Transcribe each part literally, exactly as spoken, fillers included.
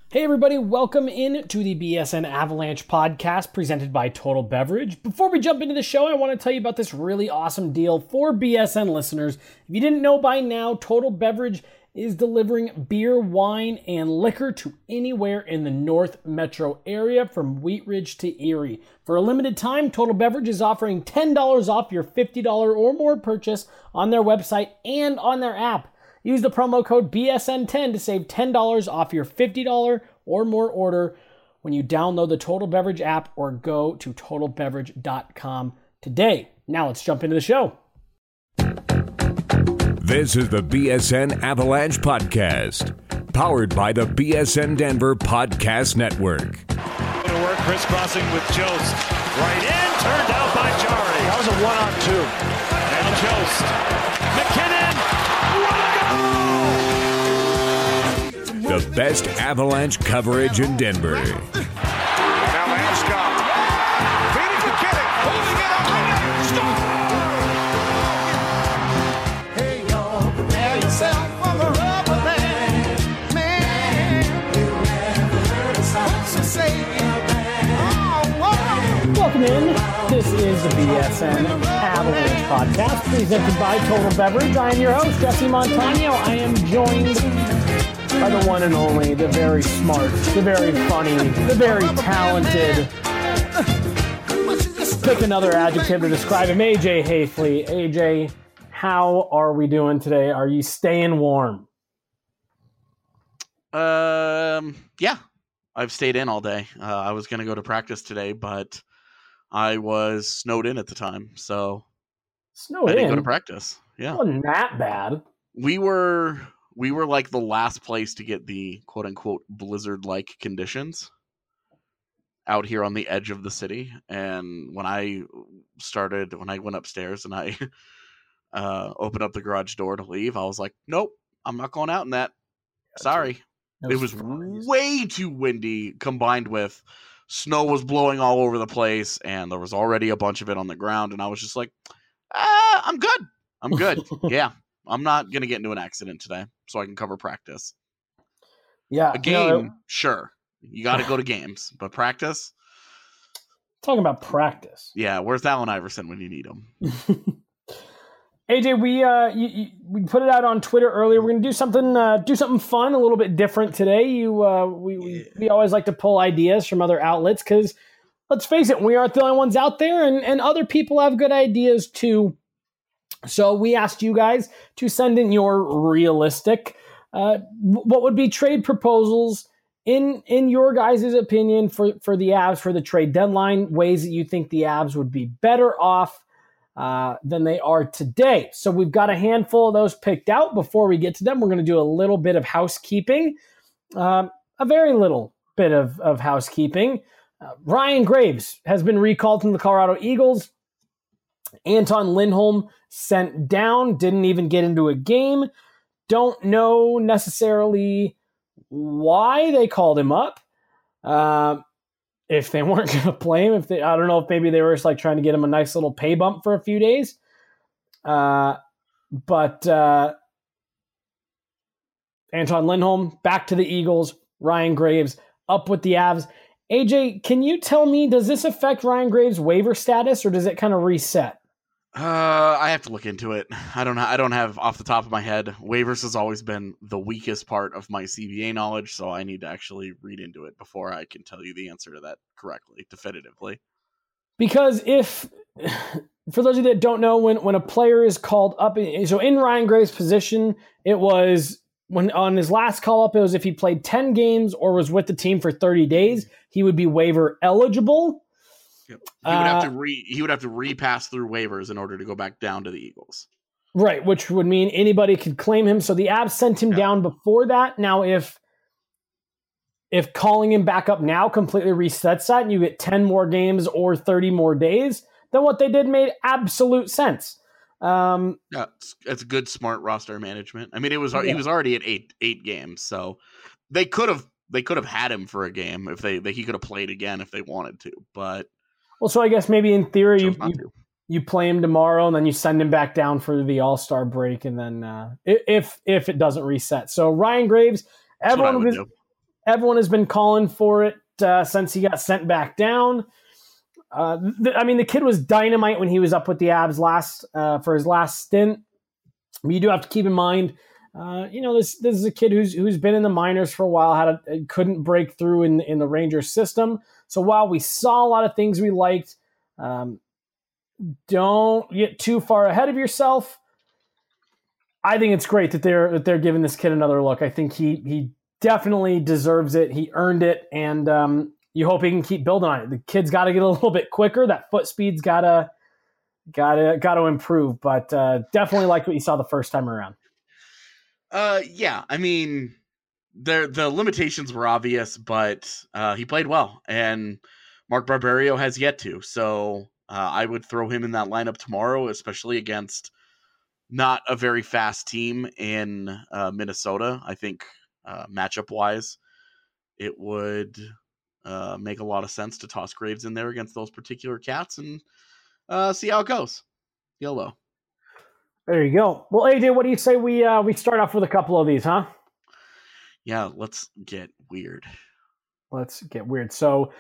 Hey everybody, welcome in to the B S N Avalanche podcast presented by Total Beverage. Before we jump into the show, I want to tell you about this really awesome deal for B S N listeners. If you didn't know by now, Total Beverage is delivering beer, wine, and liquor to anywhere in the North Metro area from Wheat Ridge to Erie. For a limited time, Total Beverage is offering ten dollars off your fifty dollars or more purchase on their website and on their app. Use the promo code B S N ten to save ten dollars off your fifty dollars or more order when you download the Total Beverage app or go to total beverage dot com today. Now let's jump into the show. This is the B S N Avalanche Podcast, powered by the B S N Denver Podcast Network. Go to work, crisscrossing with Jost. Right in, turned out by Jari. That was a one-on-two. Now Jost. McKinnon. The best Avalanche coverage in Denver. Now Landeskog. Feeding McKinnon. Holding it up. Hey, y'all, prepare yourself for the rubber band. Man, you never heard a song so say oh, Welcome in. This is the B S N Avalanche Podcast presented by Total Beverage. I am your host, Jesse Montano. I am joined by the one and only, the very smart, the very funny, the very talented. Pick another adjective to describe him, A J Hayfley. A J, how are we doing today? Are you staying warm? Um, yeah, I've stayed in all day. Uh, I was going to go to practice today, but I was snowed in at the time, so Snowed I didn't in? go to practice. Yeah, It wasn't that bad. we were we were like the last place to get the quote unquote blizzard-like conditions out here on the edge of the city. And when I started, when I went upstairs and I uh, opened up the garage door to leave, I was like, nope, I'm not going out in that. Sorry. It was way too windy, combined with snow was blowing all over the place, and there was already a bunch of it on the ground, and I was just like, ah, I'm good. I'm good. Yeah, I'm not going to get into an accident today, so I can cover practice. Yeah. A game, sure. You got to go to games, but practice? Talking about practice. Yeah, where's Allen Iverson when you need him? A J, we uh, you, you, we put it out on Twitter earlier. We're gonna do something, uh, do something fun, a little bit different today. You, uh, we, we we always like to pull ideas from other outlets because, let's face it, we aren't the only ones out there, and and other people have good ideas too. So we asked you guys to send in your realistic, uh, what would be trade proposals in in your guys' opinion for for the Avs for the trade deadline, ways that you think the Avs would be better off Uh, than they are today. So we've got a handful of those picked out. Before we get to them, we're going to do a little bit of housekeeping, um, a very little bit of, of housekeeping. Uh, Ryan Graves has been recalled from the Colorado Eagles. Anton Lindholm sent down, didn't even get into a game. Don't know necessarily why they called him up. Uh, If they weren't going to play him, if they, I don't know if maybe they were just like trying to get him a nice little pay bump for a few days. Uh, but uh, Anton Lindholm back to the Eagles. Ryan Graves up with the Avs. A J, can you tell me, does this affect Ryan Graves' waiver status, or does it kind of reset? Uh, I have to look into it. I don't. I don't have off the top of my head. Waivers has always been the weakest part of my C B A knowledge, so I need to actually read into it before I can tell you the answer to that correctly, definitively. Because if, for those of you that don't know, when when a player is called up, so in Ryan Graves' position, it was when on his last call up, it was if he played ten games or was with the team for thirty days, he would be waiver eligible. Yep. He would have Uh, to re he would have to repass through waivers in order to go back down to the Eagles. Right, which would mean anybody could claim him. So the Avs sent him Yeah. down before that. Now, if if calling him back up now completely resets that and you get ten more games or thirty more days, then what they did made absolute sense. Um, Yeah, it's, it's good, smart roster management. I mean, it was Yeah. he was already at eight eight games, so they could have they could have had him for a game if they, they he could have played again if they wanted to, but well, so I guess maybe in theory you, chose not you, to. you play him tomorrow and then you send him back down for the All-Star break, and then uh, if if it doesn't reset. So Ryan Graves, That's what I everyone would was do. Everyone has been calling for it uh, since he got sent back down. Uh, th- I mean, the kid was dynamite when he was up with the Abs last uh, for his last stint. But you do have to keep in mind, uh, you know, this this is a kid who's who's been in the minors for a while, had a, couldn't break through in in the Rangers system. So while we saw a lot of things we liked, um, don't get too far ahead of yourself. I think it's great that they're that they're giving this kid another look. I think he he definitely deserves it. He earned it, and um, you hope he can keep building on it. The kid's got to get a little bit quicker. That foot speed's gotta gotta gotta improve. But uh, definitely liked what you saw the first time around. Uh, yeah, I mean, the the limitations were obvious, but uh, he played well, and Mark Barberio has yet to. So uh, I would throw him in that lineup tomorrow, especially against not a very fast team in uh, Minnesota. I think uh, matchup wise, it would uh, make a lot of sense to toss Graves in there against those particular Cats and uh, see how it goes. YOLO. There you go. Well, A J, what do you say we uh, we start off with a couple of these, huh? Yeah, let's get weird. Let's get weird. So,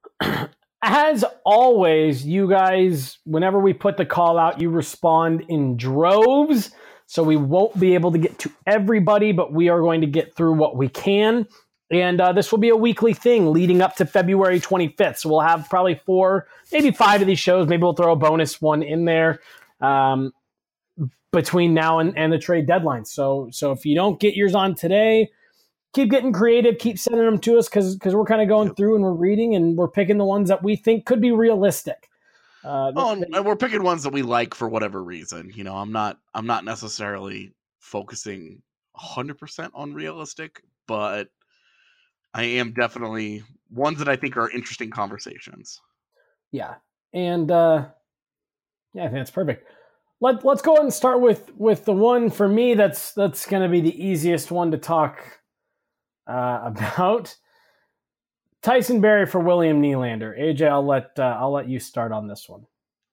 as always, you guys, whenever we put the call out, you respond in droves. So we won't be able to get to everybody, but we are going to get through what we can. And uh, this will be a weekly thing leading up to February twenty-fifth. So we'll have probably four, maybe five of these shows. Maybe we'll throw a bonus one in there um, between now and, and the trade deadline. So, so if you don't get yours on today, keep getting creative, keep sending them to us because because we're kind of going through and we're reading and we're picking the ones that we think could be realistic. Uh, oh, and, and we're picking ones that we like for whatever reason. You know, I'm not I'm not necessarily focusing one hundred percent on realistic, but I am definitely ones that I think are interesting conversations. Yeah, and uh, yeah, I think that's perfect. Let Let's go ahead and start with with the one for me that's that's going to be the easiest one to talk Uh, about. Tyson Barrie for William Nylander. A J, I'll let uh, I'll let you start on this one.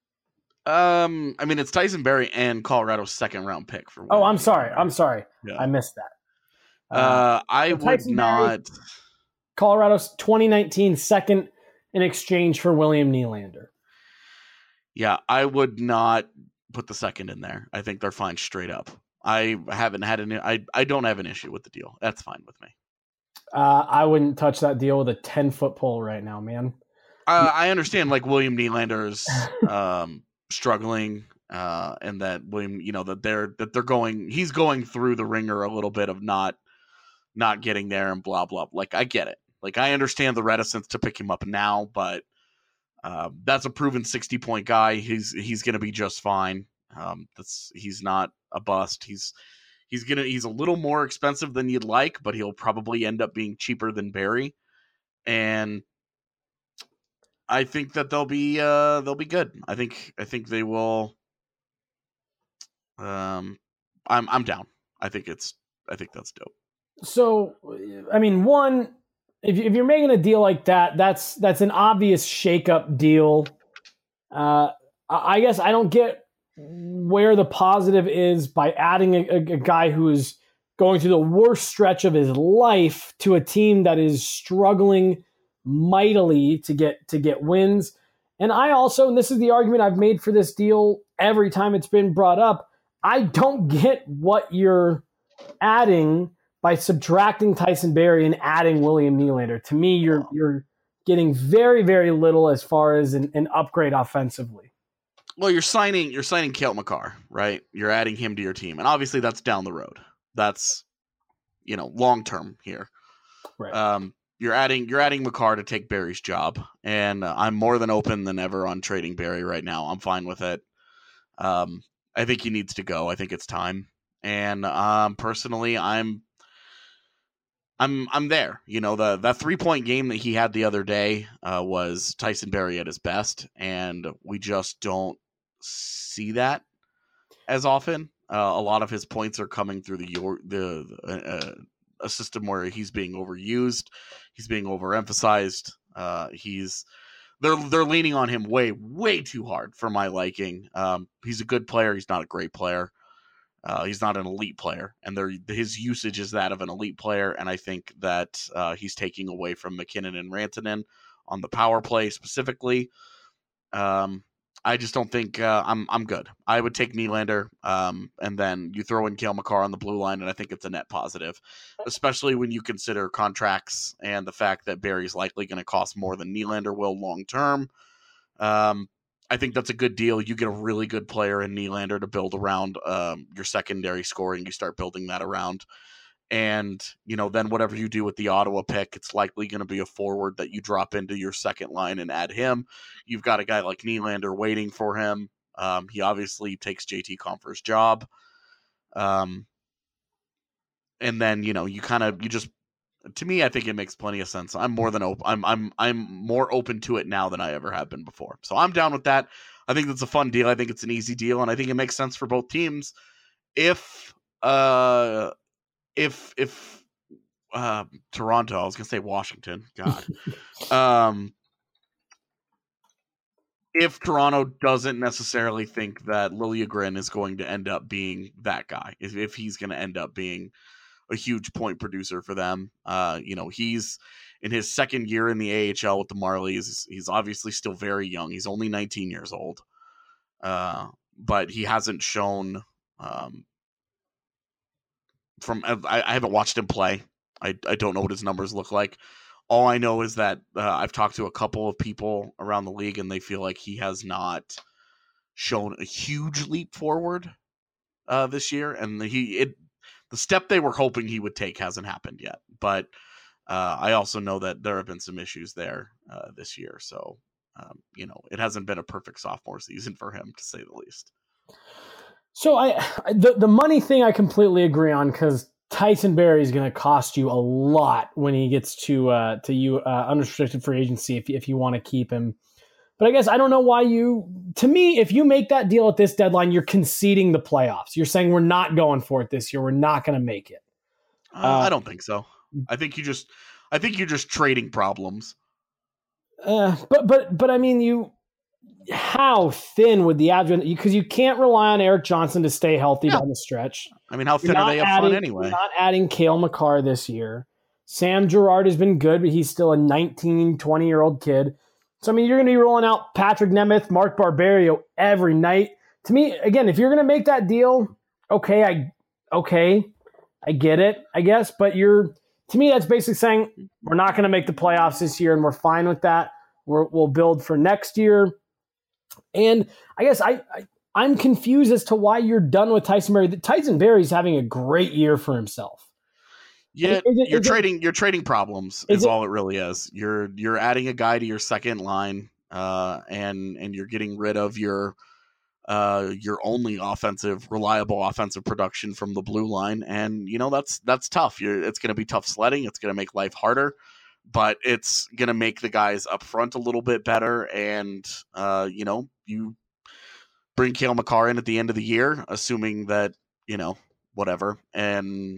Um, I mean, it's Tyson Barrie and Colorado's second round pick for. Oh, William I'm sorry. Nylander. I'm sorry. Yeah. I missed that. Uh, uh I so would Tyson not. Barrie, Colorado's twenty nineteen second in exchange for William Nylander. Yeah, I would not put the second in there. I think they're fine straight up. I haven't had an. I I don't have an issue with the deal. That's fine with me. Uh, I wouldn't touch that deal with a ten-foot pole right now, man. Uh, I understand, like, William Nylander's um, struggling, uh, and that William, you know, that they're that they're going, he's going through the ringer a little bit of not not getting there and blah blah. Like, I get it. Like, I understand the reticence to pick him up now, but uh, that's a proven sixty-point guy. He's he's going to be just fine. Um, that's he's not a bust. He's He's gonna. He's a little more expensive than you'd like, but he'll probably end up being cheaper than Barrie, and I think that they'll be. Uh, they'll be good. I think. I think they will. Um, I'm. I'm down. I think it's. I think that's dope. So, I mean, one, if if you're making a deal like that, that's that's an obvious shakeup deal. Uh, I guess I don't get where the positive is by adding a, a, a guy who is going through the worst stretch of his life to a team that is struggling mightily to get to get wins. And I also, and this is the argument I've made for this deal every time it's been brought up, I don't get what you're adding by subtracting Tyson Barrie and adding William Nylander. To me, you're you're getting very, very little as far as an, an upgrade offensively. Well, you're signing you're signing Cale Makar, right? You're adding him to your team, and obviously that's down the road. That's, you know, long term here. Right. Um, you're adding you're adding Makar to take Barry's job, and uh, I'm more than open than ever on trading Barrie right now. I'm fine with it. Um, I think he needs to go. I think it's time, and um, personally, I'm I'm I'm there. You know, the that three point game that he had the other day uh, was Tyson Barrie at his best, and we just don't see that as often. Uh, a lot of his points are coming through the the uh, a system where he's being overused, he's being overemphasized. Uh, he's they're they're leaning on him way way too hard for my liking. Um, he's a good player. He's not a great player. Uh, he's not an elite player, and there his usage is that of an elite player, and I think that uh, he's taking away from McKinnon and Rantanen on the power play specifically. Um, I just don't think uh, I'm I'm good. I would take Nylander, um, and then you throw in Cale Makar on the blue line, and I think it's a net positive, especially when you consider contracts and the fact that Barry's likely going to cost more than Nylander will long term. Um, I think that's a good deal. You get a really good player in Nylander to build around um, your secondary scoring. You start building that around. And, you know, then whatever you do with the Ottawa pick, it's likely going to be a forward that you drop into your second line and add him. You've got a guy like Nylander waiting for him. Um, he obviously takes J T Compher's job. Um, and then, you know, you kind of, you just, to me, I think it makes plenty of sense. I'm more than open. I'm I'm I'm more open to it now than I ever have been before. So I'm down with that. I think that's a fun deal. I think it's an easy deal, and I think it makes sense for both teams. If uh, if if uh, Toronto, I was gonna say Washington. God, um, if Toronto doesn't necessarily think that Liljegren is going to end up being that guy, if if he's going to end up being a huge point producer for them. Uh, you know, he's in his second year in the A H L with the Marlies. He's obviously still very young. He's only nineteen years old. Uh, but he hasn't shown um, from, I, I haven't watched him play. I, I don't know what his numbers look like. All I know is that uh, I've talked to a couple of people around the league and they feel like he has not shown a huge leap forward uh, this year. And he, it, the step they were hoping he would take hasn't happened yet, but uh, I also know that there have been some issues there uh, this year. So, um, you know, it hasn't been a perfect sophomore season for him, to say the least. So I, the, the money thing I completely agree on, because Tyson Barrie is going to cost you a lot when he gets to uh, to you uh, unrestricted free agency if if you want to keep him. But I guess I don't know why you, to me, if you make that deal at this deadline, you're conceding the playoffs. You're saying we're not going for it this year. We're not going to make it. Uh, uh, I don't think so. I think you just, I think you're just trading problems. Uh, but, but, but I mean, you, how thin would the advent, because you can't rely on Erik Johnson to stay healthy yeah. down the stretch. I mean, how thin are they up front anyway? You're not adding Cale Makar this year. Sam Girard has been good, but he's still a nineteen, twenty year old kid. So, I mean, you're going to be rolling out Patrick Nemeth, Mark Barberio every night. To me, again, if you're going to make that deal, okay, I okay, I get it, I guess. But you're, to me, that's basically saying we're not going to make the playoffs this year, and we're fine with that. We're, we'll build for next year. And I guess I, I, I'm confused as to why you're done with Tyson Barrie. Tyson Barrie's having a great year for himself. Yeah, it, you're it, trading. You're trading problems. Is, is it, all it really is. You're you're adding a guy to your second line, uh, and and you're getting rid of your uh, your only offensive, reliable offensive production from the blue line, and you know that's that's tough. You're, it's going to be tough sledding. It's going to make life harder, but it's going to make the guys up front a little bit better. And uh, you know, you bring Cale Makar in at the end of the year, assuming that you know whatever and.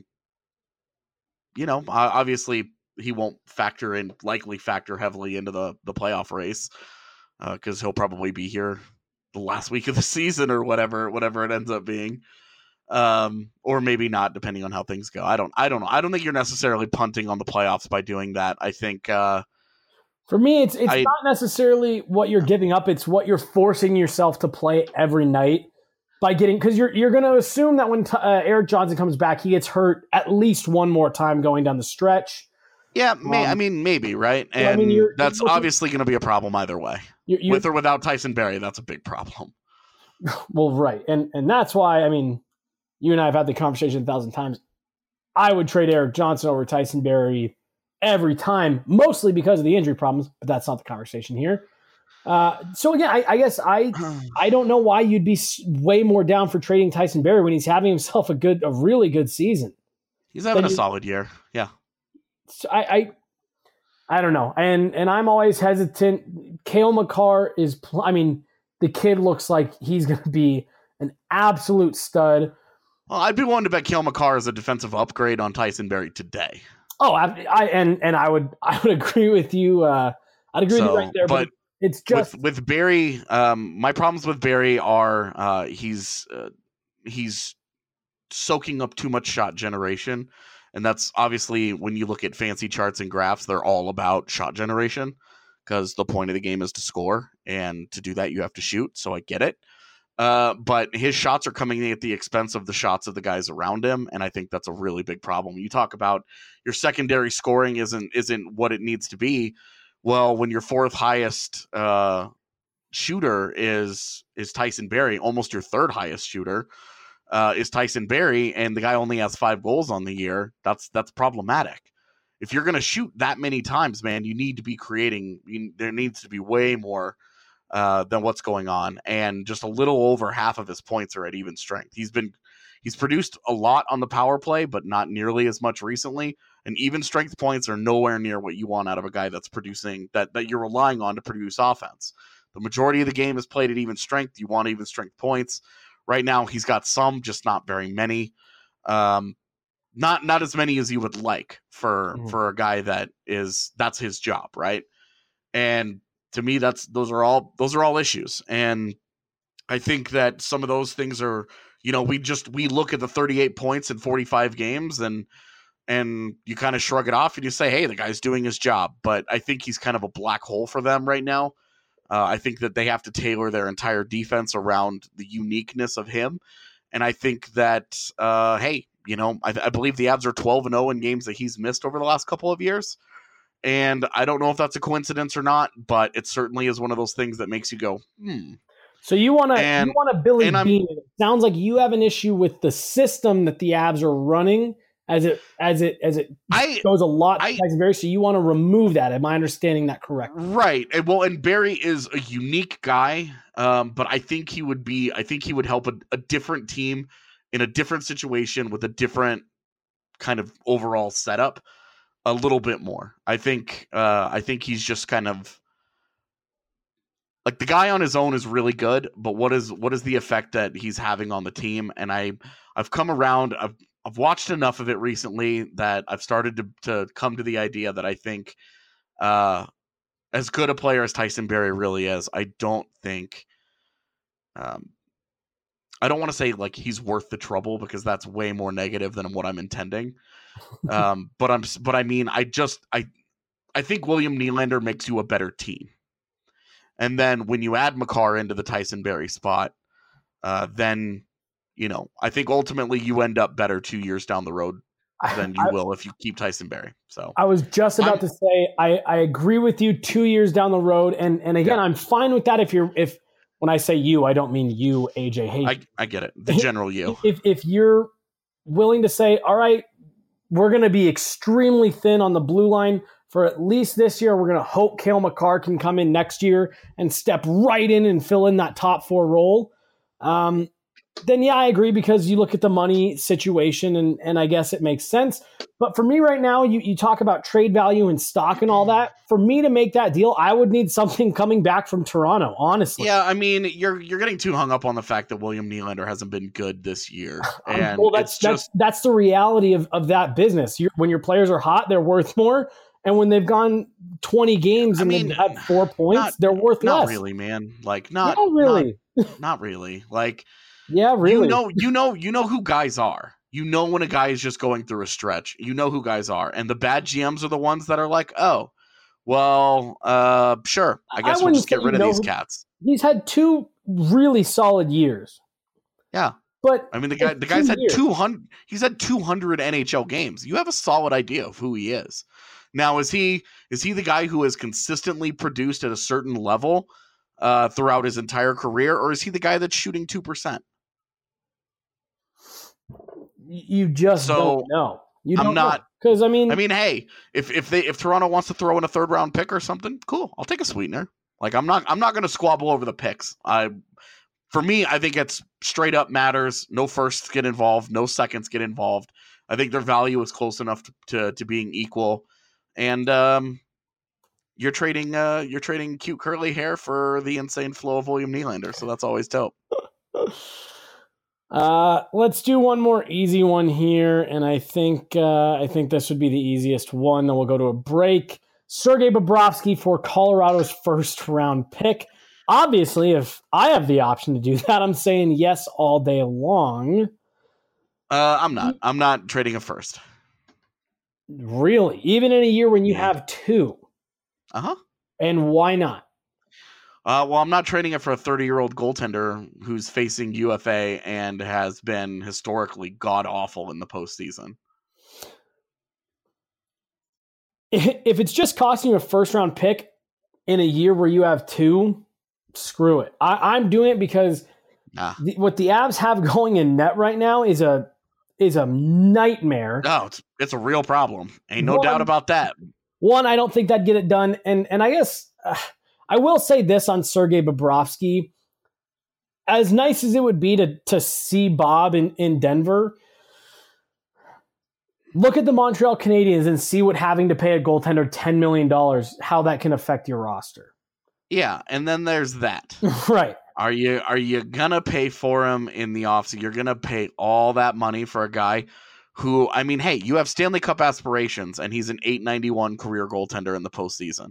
You know, obviously he won't factor in, likely factor heavily into the, the playoff race because uh, he'll probably be here the last week of the season or whatever, whatever it ends up being, um, or maybe not, depending on how things go. I don't, I don't know. I don't think you're necessarily punting on the playoffs by doing that. I think uh, for me, it's it's I, not necessarily what you're giving up; it's what you're forcing yourself to play every night. By getting, because you're you're going to assume that when t- uh, Erik Johnson comes back, he gets hurt at least one more time going down the stretch. Yeah, may, um, I mean maybe right, and I mean, you're, that's you're, obviously going to be a problem either way. You're, you're, With or without Tyson Barrie, that's a big problem. Well, right, and and that's why I mean, you and I have had the conversation a thousand times. I would trade Erik Johnson over Tyson Barrie every time, mostly because of the injury problems, but that's not the conversation here. Uh, so again, I, I guess I I don't know why you'd be way more down for trading Tyson Barrie when he's having himself a good, a really good season. He's having then a you, solid year, yeah. So I, I I don't know, and and I'm always hesitant. Cale Makar is, pl- I mean, the kid looks like he's going to be an absolute stud. Well, I'd be willing to bet Cale Makar is a defensive upgrade on Tyson Barrie today. Oh, I, I and and I would I would agree with you. Uh, I'd agree so, with you right there, but. but It's just with, with Barrie. Um, my problems with Barrie are uh, he's uh, he's soaking up too much shot generation. And that's obviously when you look at fancy charts and graphs, they're all about shot generation because the point of the game is to score. And to do that, you have to shoot. So I get it. Uh, but his shots are coming in at the expense of the shots of the guys around him. And I think that's a really big problem. You talk about your secondary scoring isn't isn't what it needs to be. Well, when your fourth highest uh, shooter is is Tyson Barrie, almost your third highest shooter uh, is Tyson Barrie, and the guy only has five goals on the year, that's that's problematic. If you're going to shoot that many times, man, you need to be creating. You, there needs to be way more uh, than what's going on, and just a little over half of his points are at even strength. He's been he's produced a lot on the power play, but not nearly as much recently. And even strength points are nowhere near what you want out of a guy that's producing that that you're relying on to produce offense. The majority of the game is played at even strength. You want even strength points. Right now, he's got some, just not very many. Um, not not as many as you would like for mm. for a guy that is that's his job, right? And to me, that's those are all those are all issues. And I think that some of those things are, you know, we just we look at the thirty-eight points in forty-five games and and you kind of shrug it off and you say, hey, the guy's doing his job. But I think he's kind of a black hole for them right now. Uh, I think that they have to tailor their entire defense around the uniqueness of him. And I think that, uh, hey, you know, I, I believe the Avs are twelve and oh in games that he's missed over the last couple of years. And I don't know if that's a coincidence or not, but it certainly is one of those things that makes you go, hmm. So you want to you want to Billy Beane. It sounds like you have an issue with the system that the Avs are running as it as it as it I, goes a lot I, to Tyson Barrie. So you want to remove that. Am I understanding that correctly? Right. And, well, and Barrie is a unique guy, um, but I think he would be. I think he would help a, a different team in a different situation with a different kind of overall setup a little bit more. I think. Uh, I think he's just kind of. Like the guy on his own is really good, but what is what is the effect that he's having on the team? And I I've come around. I've I've watched enough of it recently that I've started to to come to the idea that I think, uh, as good a player as Tyson Barrie really is, I don't think. Um, I don't want to say like he's worth the trouble because that's way more negative than what I'm intending. um, but I'm but I mean I just I I think William Nylander makes you a better team. And then when you add Makar into the Tyson Barrie spot, uh, then, you know, I think ultimately you end up better two years down the road than you I, will if you keep Tyson Barrie. So I was just about I'm, to say, I, I agree with you two years down the road. And, and again, yeah. I'm fine with that. If you're, if, when I say you, I don't mean you, A J Hayes. I, I get it. The general you. If, if you're willing to say, all right, we're going to be extremely thin on the blue line for at least this year. We're going to hope Cale Makar can come in next year and step right in and fill in that top four role. Um, then, yeah, I agree because you look at the money situation and, and I guess it makes sense. But for me right now, you, you talk about trade value and stock and all that. For me to make that deal, I would need something coming back from Toronto, honestly. Yeah, I mean, you're you're getting too hung up on the fact that William Nylander hasn't been good this year. And well, that's, it's just... that's, that's the reality of, of that business. You're, when your players are hot, they're worth more. And when they've gone twenty games and I mean, they've had four points, not, they're worth not less. Not really, man. Like, not, not really. Not, not really. Like, yeah, really. You know, you know, you know who guys are. You know when a guy is just going through a stretch. You know who guys are, and the bad G Ms are the ones that are like, oh, well, uh, sure. I guess I we'll just get rid of these cats. He's had two really solid years. Yeah. But I mean, the guy, the guy's had two hundred. He's had two hundred N H L games. You have a solid idea of who he is. Now, is he is he the guy who has consistently produced at a certain level uh, throughout his entire career, or is he the guy that's shooting two percent? You just so, don't know. You don't I'm not because I mean, I mean, hey, if if they if Toronto wants to throw in a third round pick or something, cool. I'll take a sweetener. Like I'm not I'm not going to squabble over the picks. I for me, I think it's straight up matters. No firsts get involved. No seconds get involved. I think their value is close enough to to, to being equal. And um, you're trading uh, you're trading cute curly hair for the insane flow of William Nylander, so that's always dope. uh, let's do one more easy one here, and I think uh, I think this would be the easiest one. Then we'll go to a break. Sergei Bobrovsky for Colorado's first round pick. Obviously, if I have the option to do that, I'm saying yes all day long. Uh, I'm not. I'm not trading a first. Really? Even in a year when you Yeah. have two? Uh-huh. And why not? Uh, well, I'm not trading it for a thirty-year-old goaltender who's facing U F A and has been historically god-awful in the postseason. If it's just costing you a first-round pick in a year where you have two, screw it. I, I'm doing it because Nah. the, what the Avs have going in net right now is a is a nightmare. No, it's it's a real problem. Ain't no One- doubt about that. One, I don't think that'd get it done. And and I guess uh, I will say this on Sergei Bobrovsky. As nice as it would be to to see Bob in, in Denver, look at the Montreal Canadiens and see what having to pay a goaltender ten million dollars, how that can affect your roster. Yeah, and then there's that. Right. Are you are you gonna pay for him in the offseason? You're gonna pay all that money for a guy who, I mean, hey, you have Stanley Cup aspirations, and he's an eight ninety-one career goaltender in the postseason.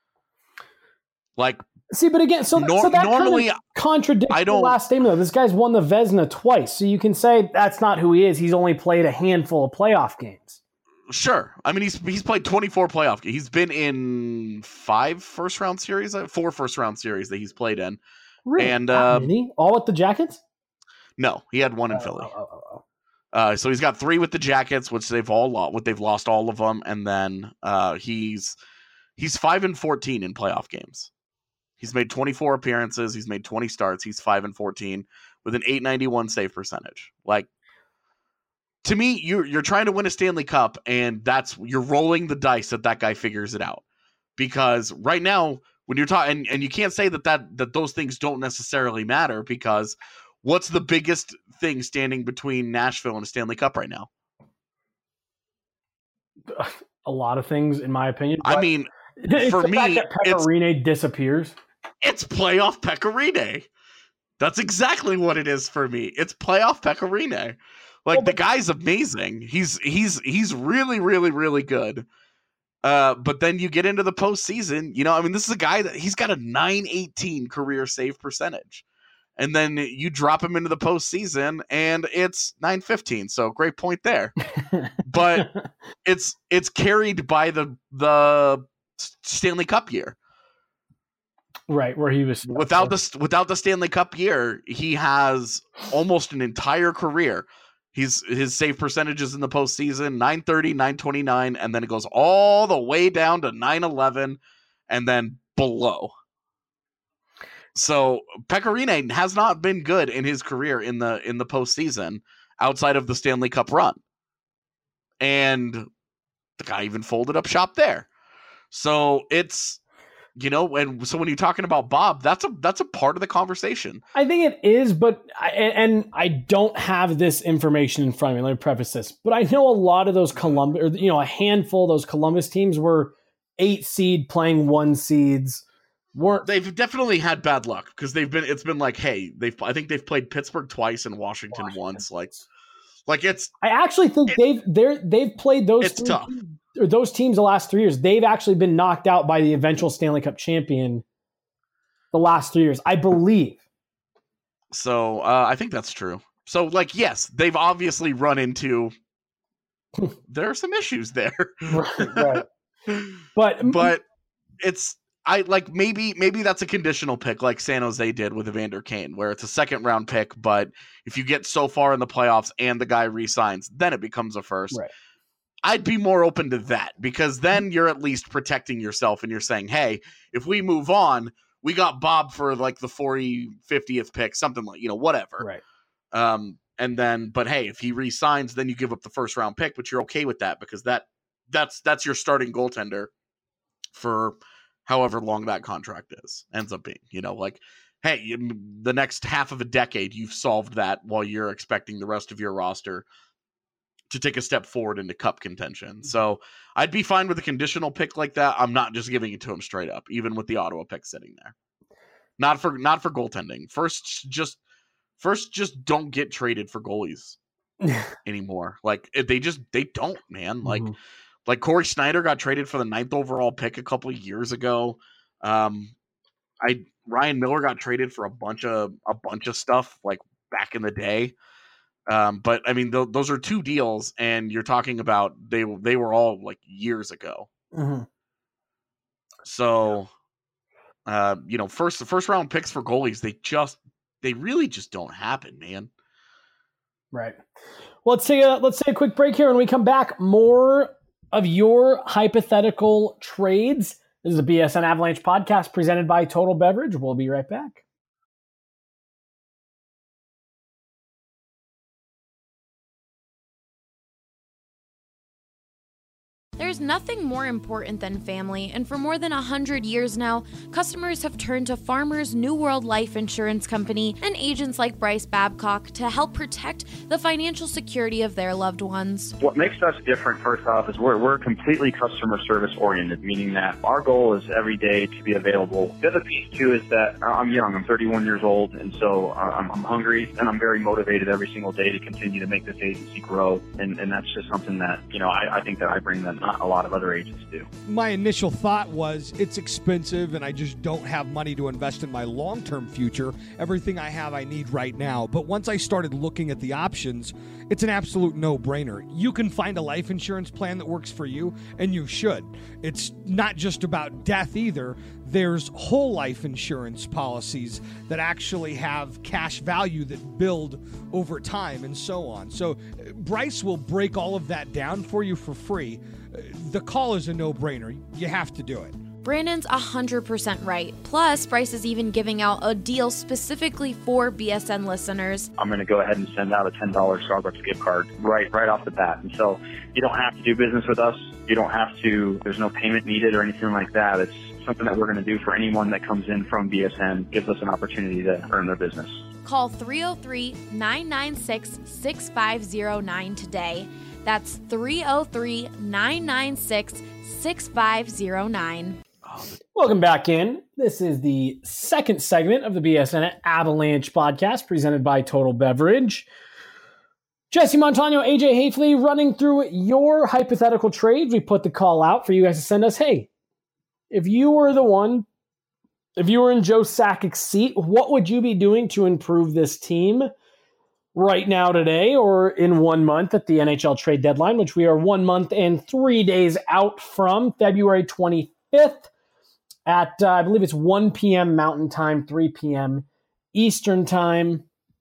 Like, See, but again, so, Nor- so that normally, kind of contradicts I the don't- last statement, though. This guy's won the Vezina twice, so you can say that's not who he is. He's only played a handful of playoff games. sure. I mean, he's he's played twenty-four playoff games. He's been in five first round series, uh, four first round series that he's played in. Really? And, That uh, many? All with the Jackets? No, he had one in Oh, Philly. oh, oh, oh. Uh, so he's got three with the Jackets, which they've all lost. What they've lost all of them, and then uh, he's he's five and fourteen in playoff games. He's made twenty-four appearances. He's made twenty starts. He's five and fourteen with an eight ninety-one save percentage. Like, to me, you're you're trying to win a Stanley Cup, and that's you're rolling the dice that that guy figures it out. Because right now, when you're talking, and, and you can't say that, that that those things don't necessarily matter, because what's the biggest thing standing between Nashville and a Stanley Cup right now? A lot of things, in my opinion. I but mean, it's for the fact me, that it's- Pecorine disappears. it's playoff Pecorine. That's exactly what it is for me. It's playoff Pecorine. Like, Well, the but- guy's amazing. He's he's he's really, really, really good. Uh, but then you get into the postseason, you know, I mean, this is a guy that he's got a nine eighteen career save percentage. And then you drop him into the postseason and it's nine fifteen. So great point there. But it's it's carried by the the Stanley Cup year. Right, where he was Without the without the Stanley Cup year, he has almost an entire career. He's his save percentages in the postseason nine thirty, nine twenty-nine, and then it goes all the way down to nine eleven, and then below. So Pecorine has not been good in his career in the in the postseason outside of the Stanley Cup run, and the guy even folded up shop there. So it's. You know, and so when you're talking about Bob, that's a that's a part of the conversation. I think it is, but I, and I don't have this information in front of me. Let me preface this, but I know a lot of those Columbus, or you know, a handful of those Columbus teams were eight seed playing one seeds. Weren't They've definitely had bad luck because they've been. It's been like, hey, they've. I think they've played Pittsburgh twice and Washington, Washington. once. Like, like it's I actually think they've they're they've played those it's three tough. teams, or those teams the last three years. They've actually been knocked out by the eventual Stanley Cup champion the last three years, I believe. So uh, I think that's true. So like, yes, they've obviously run into. There are some issues there, Right, right. But but it's. I like maybe maybe that's a conditional pick like San Jose did with Evander Kane, where it's a second round pick, but if you get so far in the playoffs and the guy re-signs, then it becomes a first. Right. I'd be more open to that because then you're at least protecting yourself and you're saying, hey, if we move on, we got Bob for like the forty, fiftieth pick, something like, you know, whatever. right. Um, and then, but hey, if he re-signs, then you give up the first round pick, but you're okay with that because that that's that's your starting goaltender for however long that contract is ends up being, you know, like, hey, you, the next half of a decade, you've solved that while you're expecting the rest of your roster to take a step forward into cup contention. So I'd be fine with a conditional pick like that. I'm not just giving it to him straight up, even with the Ottawa pick sitting there. Not for, not for goaltending. First, just, first, just don't get traded for goalies anymore. Like they just, they don't, man. Like, Mhm. Like Corey Snyder got traded for the ninth overall pick a couple of years ago. Um, I Ryan Miller got traded for a bunch of a bunch of stuff like back in the day. Um, but I mean, th- those are two deals, and you're talking about they they were all like years ago. Mm-hmm. So, uh, you know, first the first round picks for goalies, they just they really just don't happen, man. Right. Well, let's take a let's take a quick break here. When we come back, more of your hypothetical trades. This is a B S N Avalanche podcast presented by Total Beverage. We'll be right back. There's nothing more important than family, and for more than one hundred years now, customers have turned to Farmers New World Life Insurance Company and agents like Bryce Babcock to help protect the financial security of their loved ones. What makes us different, first off, is we're, we're completely customer service oriented, meaning that our goal is every day to be available. The other piece, too, is that I'm young. I'm thirty-one years old, and so I'm, I'm hungry, and I'm very motivated every single day to continue to make this agency grow, and, and that's just something that, you know, I, I think that I bring that not a lot of other agents do. My initial thought was it's expensive and I just don't have money to invest in my long-term future. Everything I have I need right now. But once I started looking at the options, it's an absolute no-brainer. You can find a life insurance plan that works for you, and you should. It's not just about death either. There's whole life insurance policies that actually have cash value that build over time and so on. So Bryce will break all of that down for you for free. The call is a no-brainer. You have to do it. Brandon's one hundred percent right. Plus, Bryce is even giving out a deal specifically for B S N listeners. I'm going to go ahead and send out a ten dollars Starbucks gift card right right off the bat. And so you don't have to do business with us. You don't have to, there's no payment needed or anything like that. It's something that we're going to do for anyone that comes in from B S N, gives us an opportunity to earn their business. Call three oh three, nine nine six, six five oh nine today. That's three oh three, nine nine six, six five oh nine. Welcome back in. This is the second segment of the B S N Avalanche podcast presented by Total Beverage. Jesse Montano, A J Hafley running through your hypothetical trades. We put the call out for you guys to send us, hey, if you were the one, if you were in Joe Sakic's seat, what would you be doing to improve this team right now today or in one month at the N H L trade deadline, which we are one month and three days out from, February twenty-fifth at, uh, I believe it's one p.m. Mountain Time, three p.m. Eastern Time.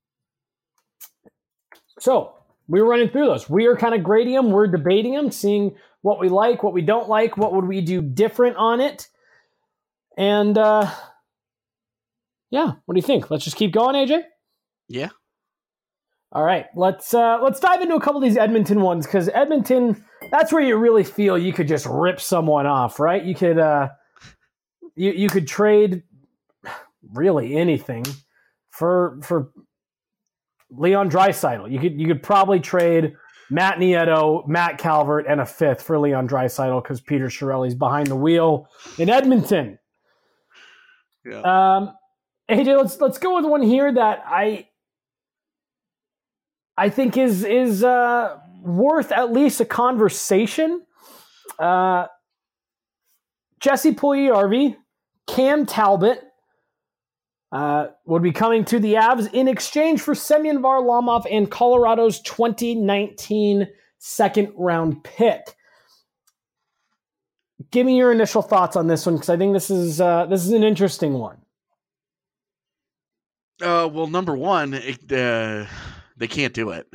So we were running through those. We are kind of grading them. We're debating them, seeing what we like, what we don't like, what would we do different on it. And uh, yeah, what do you think? Let's just keep going, A J? Yeah. All right, let's uh, let's dive into a couple of these Edmonton ones, because Edmonton, that's where you really feel you could just rip someone off, right? You could uh, you you could trade really anything for for Leon Draisaitl. You could you could probably trade Matt Nieto, Matt Calvert, and a fifth for Leon Draisaitl because Peter Chiarelli's behind the wheel in Edmonton. Yeah. Um, A J, let's let's go with one here that I. I think is is uh, worth at least a conversation. Uh, Jesse Puljujarvi, Cam Talbot uh, would be coming to the Avs in exchange for Semyon Varlamov and Colorado's twenty nineteen second round pick. Give me your initial thoughts on this one, because I think this is uh, this is an interesting one. Uh, well, number one, it, uh... they can't do it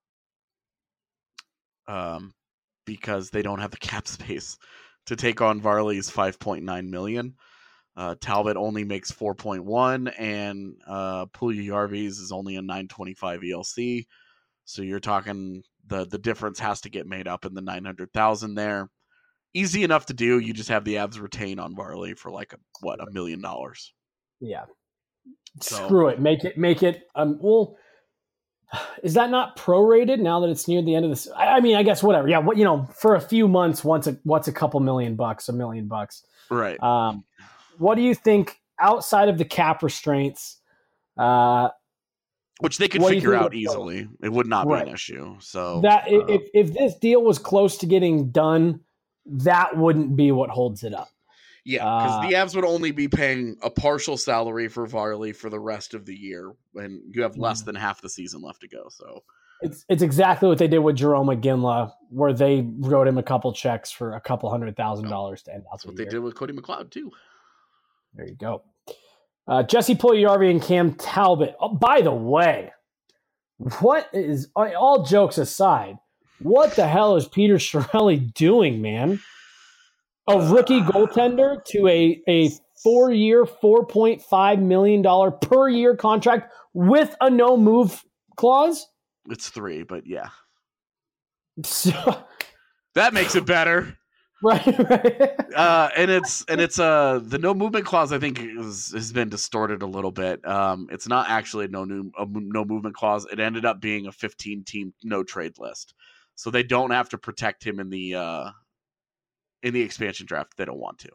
um, because they don't have the cap space to take on Varley's five point nine million dollars. Uh, Talbot only makes four point one, and uh, Puljujarvi's is only a nine twenty-five E L C. So you're talking the the difference has to get made up in the nine hundred thousand there. Easy enough to do. You just have the Avs retain on Varley for like a, what a million dollars. Yeah. So, Screw it. Make it. Make it. Um. Well. Is that not prorated now that it's near the end of this? I mean, I guess whatever. Yeah, what you know, for a few months, once a what's a couple million bucks, a million bucks, right? Um, what do you think outside of the cap restraints? Uh, Which they could figure out easily. It would not right. be an issue. So that uh, if if this deal was close to getting done, that wouldn't be what holds it up. Yeah, because uh, the Avs would only be paying a partial salary for Varley for the rest of the year, and you have less than half the season left to go. So, It's it's exactly what they did with Jerome McGinley, where they wrote him a couple checks for a couple hundred thousand dollars to end out That's the what year. they did with Cody McLeod too. There you go. Uh, Jesse Puljujarvi and Cam Talbot. Oh, by the way, what is, all jokes aside, what the hell is Peter Chiarelli doing, man? A rookie goaltender to a, a four-year, four point five million dollars per year contract with a no-move clause? It's three, but yeah. So, that makes it better. Right, right. Uh, and it's and it's uh the no movement clause I think is, has been distorted a little bit. Um, it's not actually a no new a no movement clause. It ended up being a fifteen team no trade list, so they don't have to protect him in the uh, in the expansion draft. They don't want to.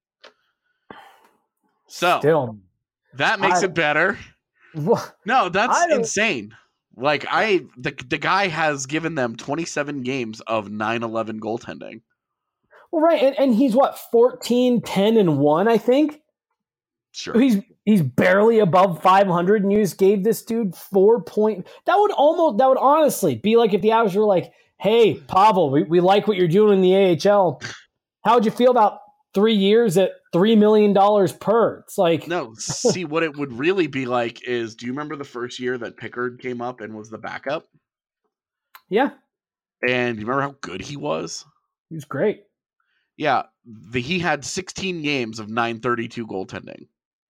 So Still, that makes I, it better. What? No, that's insane. Like I the the guy has given them twenty-seven games of nine eleven goaltending. Well, right, and, and he's what, fourteen, ten, and one, I think? Sure. He's he's barely above five hundred, and you just gave this dude four point. That would almost, that would honestly be like if the Avs were like, hey, Pavel, we, we like what you're doing in the A H L. How would you feel about three years at three million dollars per? It's like. No, see, what it would really be like is, do you remember the first year that Pickard came up and was the backup? Yeah. And you remember how good he was? He was great. Yeah, the, he had sixteen games of nine thirty-two goaltending.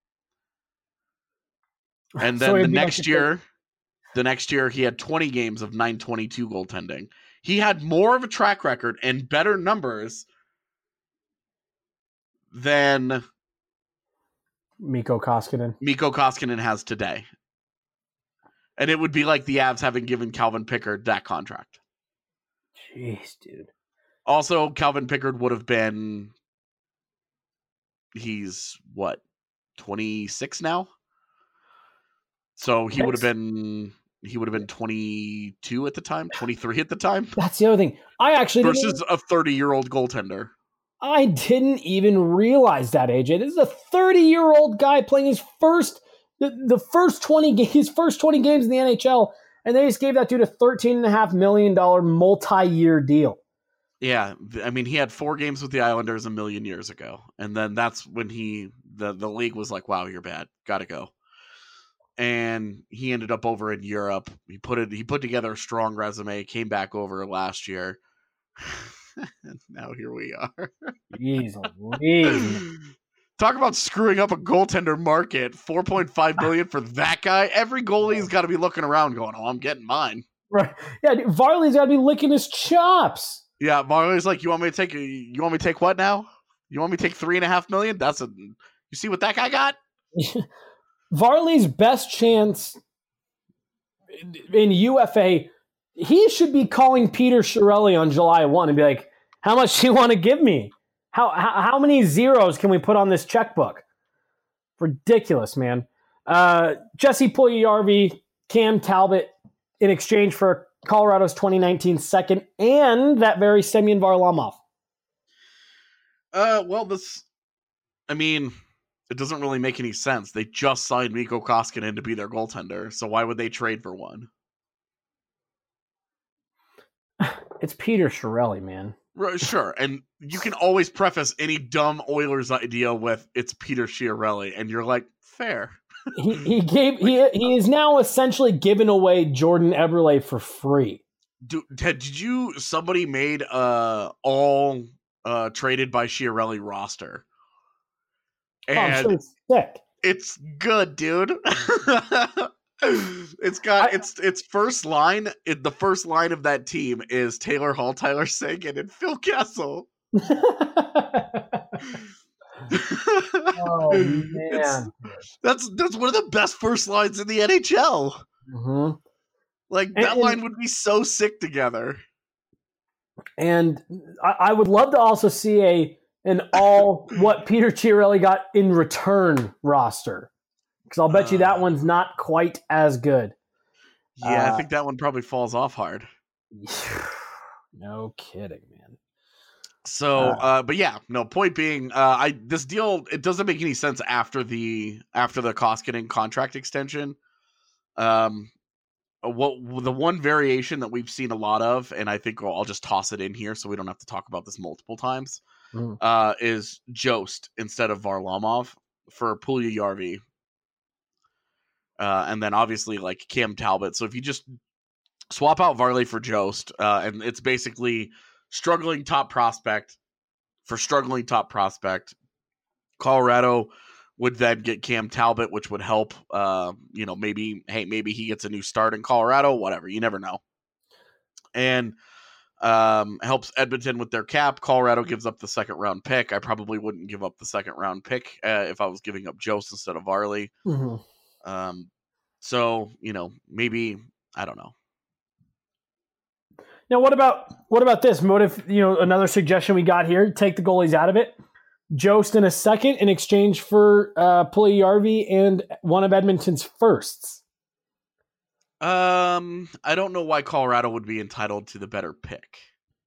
And then So the it'd be next like year, the next year he had twenty games of nine twenty-two goaltending. He had more of a track record and better numbers than Mikko Koskinen. Mikko Koskinen has today. And it would be like the Avs having given Calvin Pickard that contract. Jeez, dude. Also, Calvin Pickard would have been, he's what, twenty-six now? So he would have been, he would have been twenty-two at the time, twenty-three at the time. That's the other thing. I actually versus didn't, a thirty-year-old goaltender. I didn't even realize that, A J. This is a thirty-year-old guy playing his first, the, the first twenty, his first twenty games in the N H L, and they just gave that dude a thirteen point five million dollars multi-year deal. Yeah, I mean, he had four games with the Islanders a million years ago, and then that's when he the the league was like, "Wow, you're bad, gotta go." And he ended up over in Europe. He put it. He put together a strong resume. Came back over last year. And now here we are. Jeez, Louise. Talk about screwing up a goaltender market. four point five million dollars for that guy. Every goalie's got to be looking around, going, "Oh, I'm getting mine." Right? Yeah, dude, Varley's got to be licking his chops. Yeah, Marley's like, you want me to take? You want me to take what now? You want me to take three and a half million? That's a. You see what that guy got? Varley's best chance in U F A. He should be calling Peter Chiarelli on July first and be like, "How much do you want to give me? How how, how many zeros can we put on this checkbook?" Ridiculous, man. Uh, Jesse Puljujarvi, Cam Talbot, in exchange for Colorado's twenty nineteen second and that very Semyon Varlamov. Uh, well, this, I mean, it doesn't really make any sense. They just signed Mikko Koskinen to be their goaltender, so why would they trade for one? It's Peter Chiarelli, man. Right, sure, and you can always preface any dumb Oilers idea with "it's Peter Chiarelli," and you're like, fair. he, he gave he he is now essentially given away Jordan Eberle for free. Do, Ted, did you somebody made uh all uh traded by Chiarelli roster? And oh, I'm sure it's sick. It's good, dude. It's got I, its its first line. It, the first line of that team is Taylor Hall, Tyler Seguin, and Phil Kessel. Oh man, it's, that's that's one of the best first lines in the N H L. Mm-hmm. Like and, that line would be so sick together. And I, I would love to also see a an all what Peter Chiarelli got in return roster, because I'll bet uh, you that one's not quite as good. Yeah, uh, I think that one probably falls off hard. No kidding, man. So, uh, uh, but yeah, no. Point being, uh, I this deal it doesn't make any sense after the after the Koskinen contract extension. Um, what the one variation that we've seen a lot of, and I think I'll just toss it in here so we don't have to talk about this multiple times, mm. uh, is Jost instead of Varlamov for Puljujarvi. Uh, and then obviously like Cam Talbot. So if you just swap out Varley for Jost, uh, and it's basically struggling top prospect for struggling top prospect. Colorado would then get Cam Talbot, which would help, uh, you know, maybe, hey, maybe he gets a new start in Colorado, whatever. You never know. And um, helps Edmonton with their cap. Colorado gives up the second round pick. I probably wouldn't give up the second round pick uh, if I was giving up Jost instead of Varley. Mm-hmm. Um, so, you know, maybe, I don't know. Now, what about, what about this? What if, you know, another suggestion we got here, take the goalies out of it. Jost in a second in exchange for uh, Puljujarvi and one of Edmonton's firsts. Um, I don't know why Colorado would be entitled to the better pick.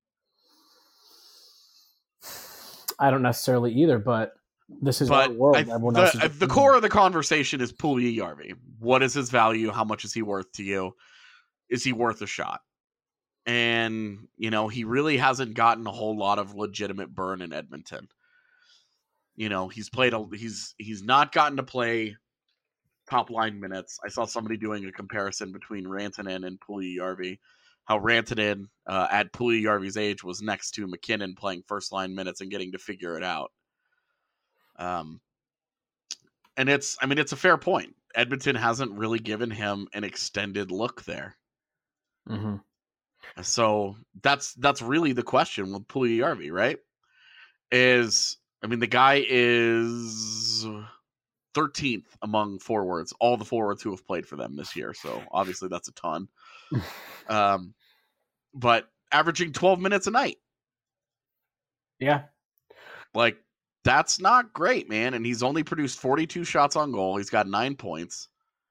I don't necessarily either, but this is but our world. I, the, the core of the conversation is Puljujarvi. What is his value? How much is he worth to you? Is he worth a shot? And, you know, he really hasn't gotten a whole lot of legitimate burn in Edmonton. You know, he's played, a, he's he's not gotten to play top line minutes. I saw somebody doing a comparison between Rantanen and Puljujarvi. How Rantanen uh, at Puljujarvi's age was next to McKinnon playing first line minutes and getting to figure it out. Um, and it's, I mean, it's a fair point. Edmonton hasn't really given him an extended look there. Mm-hmm. So that's that's really the question with Puljujarvi, right? Is I mean, the guy is thirteenth among forwards, all the forwards who have played for them this year. So obviously that's a ton. um, but averaging twelve minutes a night. Yeah. Like, that's not great, man. And he's only produced forty-two shots on goal. He's got nine points.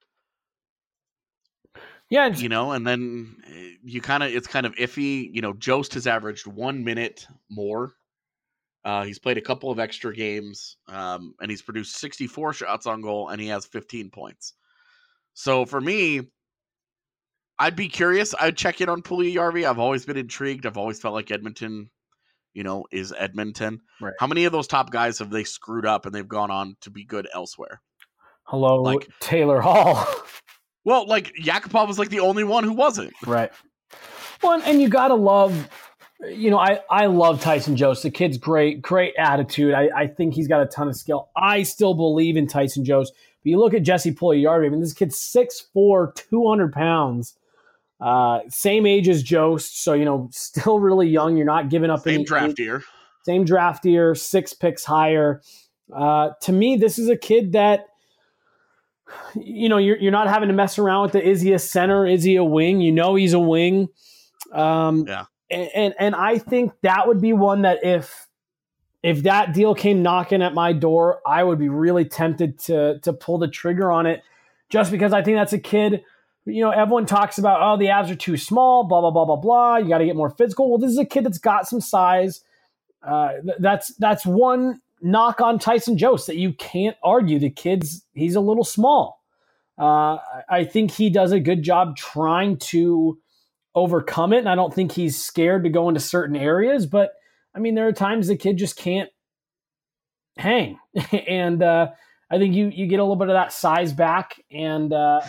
Yeah. You know, and then you kind of, it's kind of iffy. You know, Jost has averaged one minute more. Uh, he's played a couple of extra games, um, and he's produced sixty-four shots on goal, and he has fifteen points. So for me, I'd be curious. I'd check in on Puljujarvi. I've always been intrigued. I've always felt like Edmonton, you know, is Edmonton. Right. How many of those top guys have they screwed up and they've gone on to be good elsewhere? Hello, like Taylor Hall. Well, like Yakupov was like the only one who wasn't. Right. Well, and you got to love... You know, I, I love Tyson Jost. The kid's great, great attitude. I, I think he's got a ton of skill. I still believe in Tyson Jost. But you look at Jesse Puljujarvi. I mean, this kid's six foot four, two hundred pounds. Uh, same age as Jost. So, you know, still really young. You're not giving up same any draft year. Same draft year, six picks higher. Uh, to me, this is a kid that, you know, you're, you're not having to mess around with the, is he a center? Is he a wing? You know he's a wing. Um, yeah. And, and and I think that would be one that if if that deal came knocking at my door, I would be really tempted to to pull the trigger on it, just because I think that's a kid. You know, everyone talks about, oh, the Avs are too small, blah blah blah blah blah. You got to get more physical. Well, this is a kid that's got some size. Uh, that's that's one knock on Tyson Jost that you can't argue. The kid's he's a little small. Uh, I think he does a good job trying to overcome it, and I don't think he's scared to go into certain areas, but I mean, there are times the kid just can't hang. and uh, I think you you get a little bit of that size back, and uh,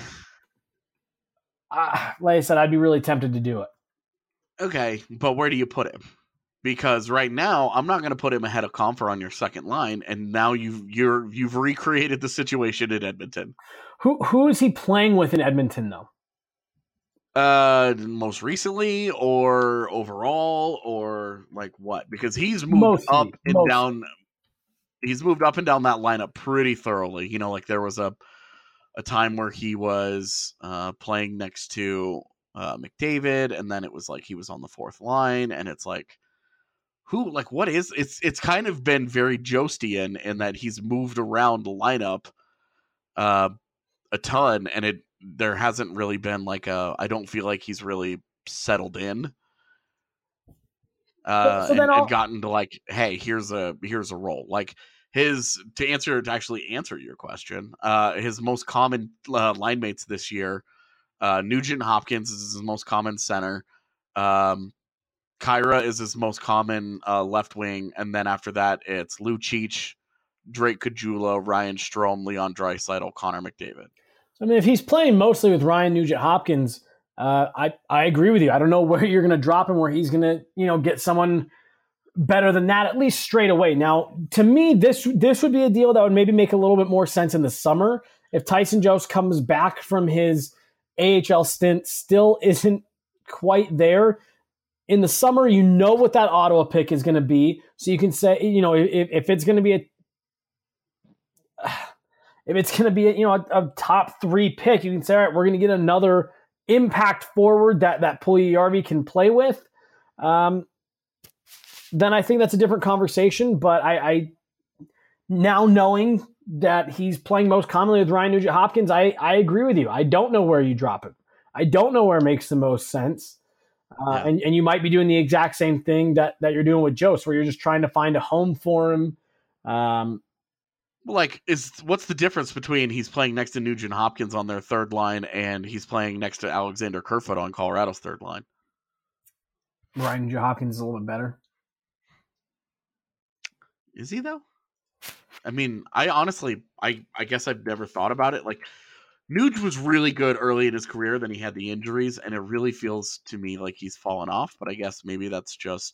uh, like I said, I'd be really tempted to do it. Okay, but where do you put him? Because right now, I'm not going to put him ahead of Compher on your second line, and now you've you're you've recreated the situation in Edmonton. Who who is he playing with in Edmonton, though? Uh, most recently, or overall, or like what? Because he's moved mostly, up and mostly. down. He's moved up and down that lineup pretty thoroughly. You know, like there was a a time where he was uh, playing next to uh, McDavid, and then it was like he was on the fourth line, and it's like, who, like, what is? It's it's kind of been very Jostian in that he's moved around the lineup uh, a ton, and it. There hasn't really been like a, I don't feel like he's really settled in uh, so, so and, and gotten to like, hey, here's a, here's a role. Like his, to answer, to actually answer your question, uh, his most common uh, line mates this year Uh, Nugent Hopkins is his most common center. Um, Kyra is his most common uh, left wing, and then after that, it's Lucic, Drake Caggiula, Ryan Strome, Leon Draisaitl, Connor McDavid. I mean, if he's playing mostly with Ryan Nugent Hopkins, uh, I I agree with you. I don't know where you're going to drop him, where he's going to you know get someone better than that, at least straight away. Now, to me, this this would be a deal that would maybe make a little bit more sense in the summer if Tyson Jost comes back from his A H L stint, still isn't quite there. In the summer, you know what that Ottawa pick is going to be. So you can say, you know, if, if it's going to be a, if it's going to be a, you know, a, a top three pick, you can say, all right, we're going to get another impact forward that, that Puljujarvi can play with. Um, then I think that's a different conversation. But I, I now knowing that he's playing most commonly with Ryan Nugent Hopkins, I, I agree with you. I don't know where you drop him. I don't know where it makes the most sense. Uh, yeah. and, and you might be doing the exact same thing that, that you're doing with Jost, where you're just trying to find a home for him. Um, like, is what's the difference between he's playing next to Nugent Hopkins on their third line and he's playing next to Alexander Kerfoot on Colorado's third line? Ryan Nugent Hopkins is a little bit better. Is he, though? I mean, I honestly, I, I guess I've never thought about it. Like, Nuge was really good early in his career, then he had the injuries, and it really feels to me like he's fallen off, but I guess maybe that's just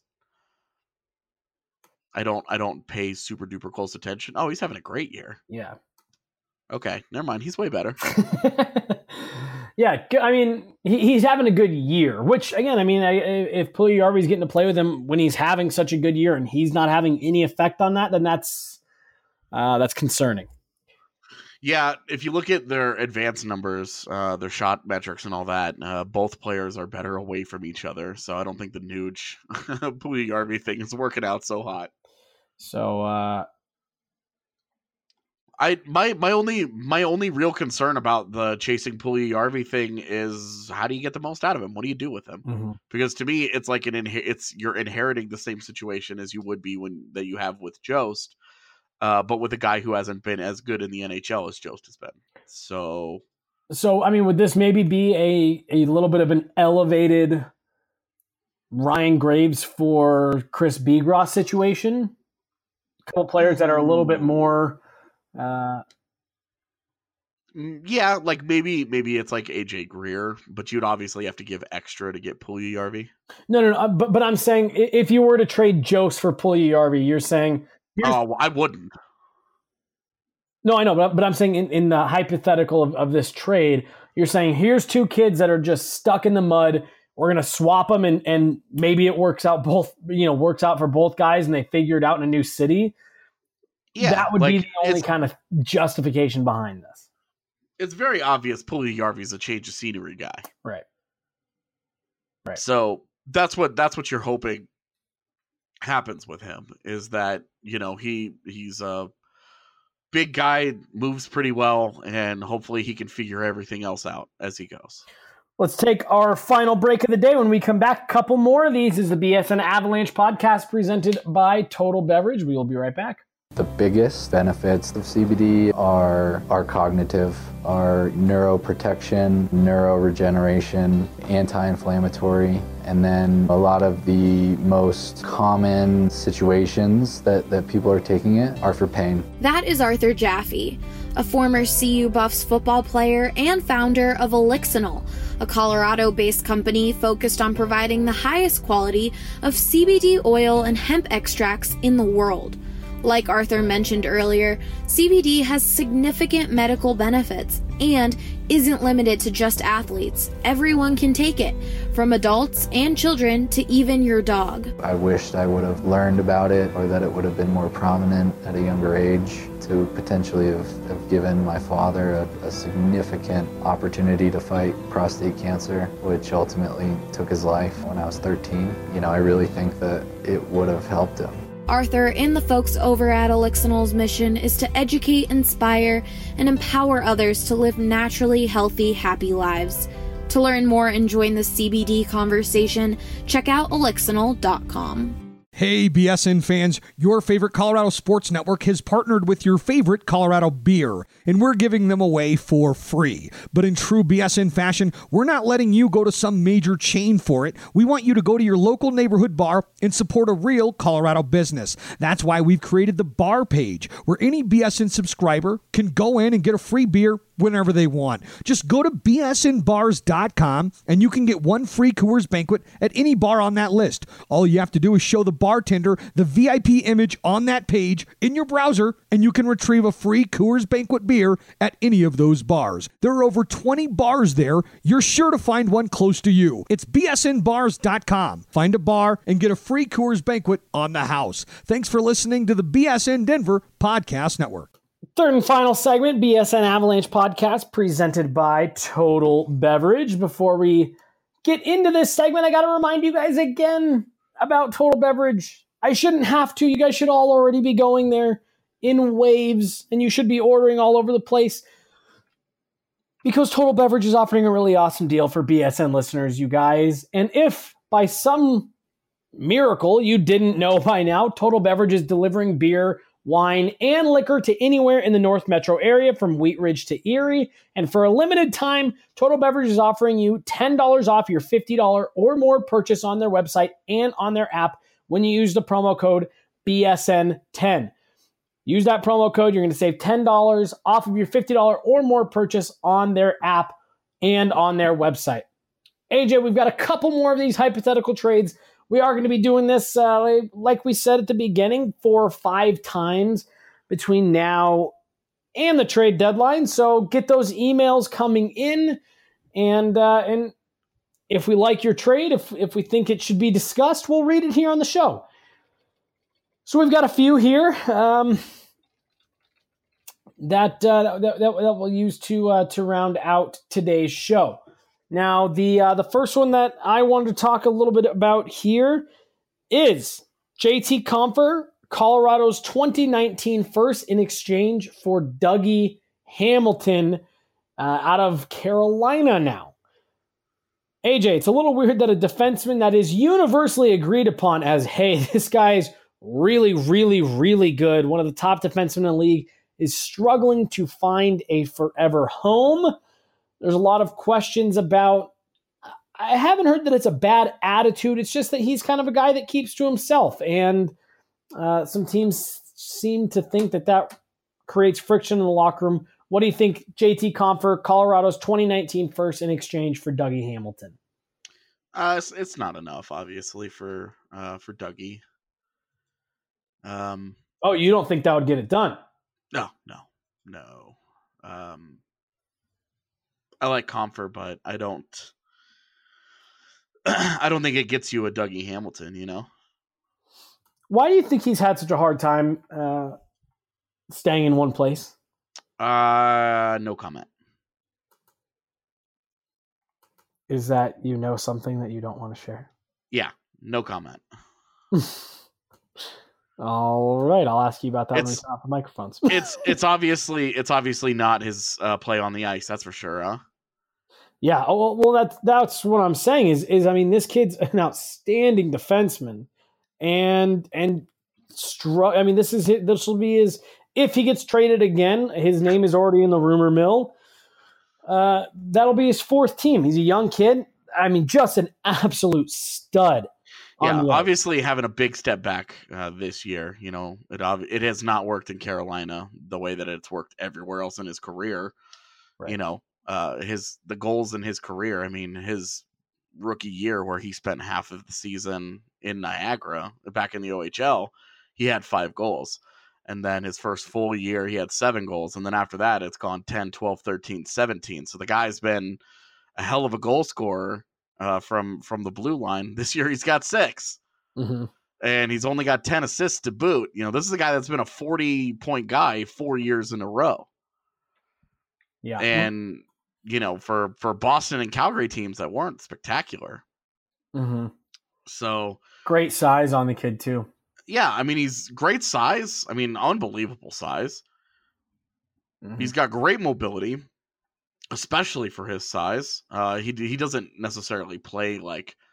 I don't I don't pay super duper close attention. Oh, he's having a great year. Yeah. Okay, never mind. He's way better. Yeah, I mean, he, he's having a good year, which, again, I mean, I, if Puljujarvi's getting to play with him when he's having such a good year and he's not having any effect on that, then that's uh, that's concerning. Yeah, if you look at their advanced numbers, uh, their shot metrics and all that, uh, both players are better away from each other. So I don't think the Nuge Puljujarvi thing is working out so hot. So uh, I my my only my only real concern about the chasing Puljujarvi thing is how do you get the most out of him? What do you do with him? mm-hmm. Because to me, it's like an inher- it's you're inheriting the same situation as you would be when that you have with Jost. Uh, but with a guy who hasn't been as good in the N H L as Jost has been. So, so I mean, would this maybe be a, a little bit of an elevated Ryan Graves for Chris Bigras situation? A couple players that are a little bit more... Uh, yeah, like maybe maybe it's like A J Greer, but you'd obviously have to give extra to get Puljujarvi. No, no, no. But, but I'm saying if you were to trade Jost for Puljujarvi, you're saying... Oh, uh, I wouldn't. No, I know, but, but I'm saying in, in the hypothetical of, of this trade, you're saying here's two kids that are just stuck in the mud. We're going to swap them, and, and maybe it works out both, you know, works out for both guys, and they figure it out in a new city. Yeah, that would like, be the only kind of justification behind this. It's very obvious Puljujarvi's a change of scenery guy. Right. Right. So that's what that's what you're hoping happens with him, is that, you know, he he's a big guy, moves pretty well, and hopefully he can figure everything else out as he goes. Let's take our final break of the day. When we come back, a couple more of these. This is the B S N Avalanche podcast presented by Total Beverage. We will be right back. The biggest benefits of C B D are our cognitive, our neuroprotection, neuroregeneration, anti-inflammatory, and then a lot of the most common situations that, that people are taking it are for pain. That is Arthur Jaffe, a former C U Buffs football player and founder of Elixinol, a Colorado-based company focused on providing the highest quality of C B D oil and hemp extracts in the world. Like Arthur mentioned earlier, C B D has significant medical benefits and isn't limited to just athletes. Everyone can take it, from adults and children to even your dog. I wished I would have learned about it, or that it would have been more prominent at a younger age, to potentially have, have given my father a, a significant opportunity to fight prostate cancer, which ultimately took his life when I was thirteen. You know, I really think that it would have helped him. Arthur and the folks over at Elixinol's mission is to educate, inspire, and empower others to live naturally healthy, happy lives. To learn more and join the C B D conversation, check out elixinol dot com. Hey, B S N fans, your favorite Colorado Sports Network has partnered with your favorite Colorado beer, and we're giving them away for free. But in true B S N fashion, we're not letting you go to some major chain for it. We want you to go to your local neighborhood bar and support a real Colorado business. That's why we've created the bar page, where any B S N subscriber can go in and get a free beer whenever they want. Just go to B S N bars dot com and you can get one free Coors Banquet at any bar on that list. All you have to do is show the bartender the V I P image on that page in your browser, and you can retrieve a free Coors Banquet beer at any of those bars. There are over twenty bars there. You're sure to find one close to you. It's B S N bars dot com. Find a bar and get a free Coors Banquet on the house. Thanks for listening to the B S N Denver Podcast Network. Third and final segment, B S N Avalanche podcast presented by Total Beverage. Before we get into this segment, I got to remind you guys again about Total Beverage. I shouldn't have to. You guys should all already be going there in waves, and you should be ordering all over the place because Total Beverage is offering a really awesome deal for B S N listeners, you guys. And if by some miracle you didn't know by now, Total Beverage is delivering beer, wine, and liquor to anywhere in the North Metro area from Wheat Ridge to Erie. And for a limited time, Total Beverage is offering you ten dollars off your fifty dollars or more purchase on their website and on their app when you use the promo code B S N ten. Use that promo code. You're going to save ten dollars off of your fifty dollars or more purchase on their app and on their website. A J, we've got a couple more of these hypothetical trades. We are going to be doing this, uh, like we said at the beginning, four or five times between now and the trade deadline. So get those emails coming in, and uh, and if we like your trade, if if we think it should be discussed, we'll read it here on the show. So we've got a few here um, that, uh, that, that that we'll use to uh, to round out today's show. Now, the uh, the first one that I wanted to talk a little bit about here is J T Compher, Colorado's twenty nineteen first in exchange for Dougie Hamilton uh, out of Carolina now. A J, it's a little weird that a defenseman that is universally agreed upon as, hey, this guy is really, really, really good, one of the top defensemen in the league, is struggling to find a forever home. There's a lot of questions about, I haven't heard that it's a bad attitude. It's just that he's kind of a guy that keeps to himself. And uh, some teams seem to think that that creates friction in the locker room. What do you think, J T Compher, Colorado's twenty nineteen first in exchange for Dougie Hamilton? Uh, it's, it's not enough, obviously, for uh, for Dougie. Um. Oh, you don't think that would get it done? No, no, no. Um. I like Compher, but I don't. I don't think it gets you a Dougie Hamilton. You know. Why do you think he's had such a hard time uh, staying in one place? Uh, no comment. Is that you know something that you don't want to share? Yeah, no comment. All right, I'll ask you about that It's- when we turn off the microphones. It's it's obviously it's obviously not his uh, play on the ice. That's for sure. Huh? Yeah, oh, well, well, that's that's what I'm saying. Is is I mean, this kid's an outstanding defenseman, and and str- I mean, this is this will be his if he gets traded again. His name is already in the rumor mill. Uh, that'll be his fourth team. He's a young kid. I mean, just an absolute stud. Yeah, on the obviously having a big step back uh, this year. You know, it ob- it has not worked in Carolina the way that it's worked everywhere else in his career. Right. You know, uh, his the goals in his career. I mean, his rookie year where he spent half of the season in Niagara back in the O H L, he had five goals. And then his first full year, he had seven goals. And then after that, it's gone ten, twelve, thirteen, seventeen. So the guy's been a hell of a goal scorer uh, from, from the blue line. This year, he's got six. Mm-hmm. And he's only got ten assists to boot. You know, this is a guy that's been a forty-point guy four years in a row. Yeah. And, you know, for, for Boston and Calgary teams that weren't spectacular. Mm-hmm. So Great size on the kid, too. yeah, I mean, he's great size. I mean, unbelievable size. Mm-hmm. He's got great mobility, especially for his size. Uh, he he doesn't necessarily play like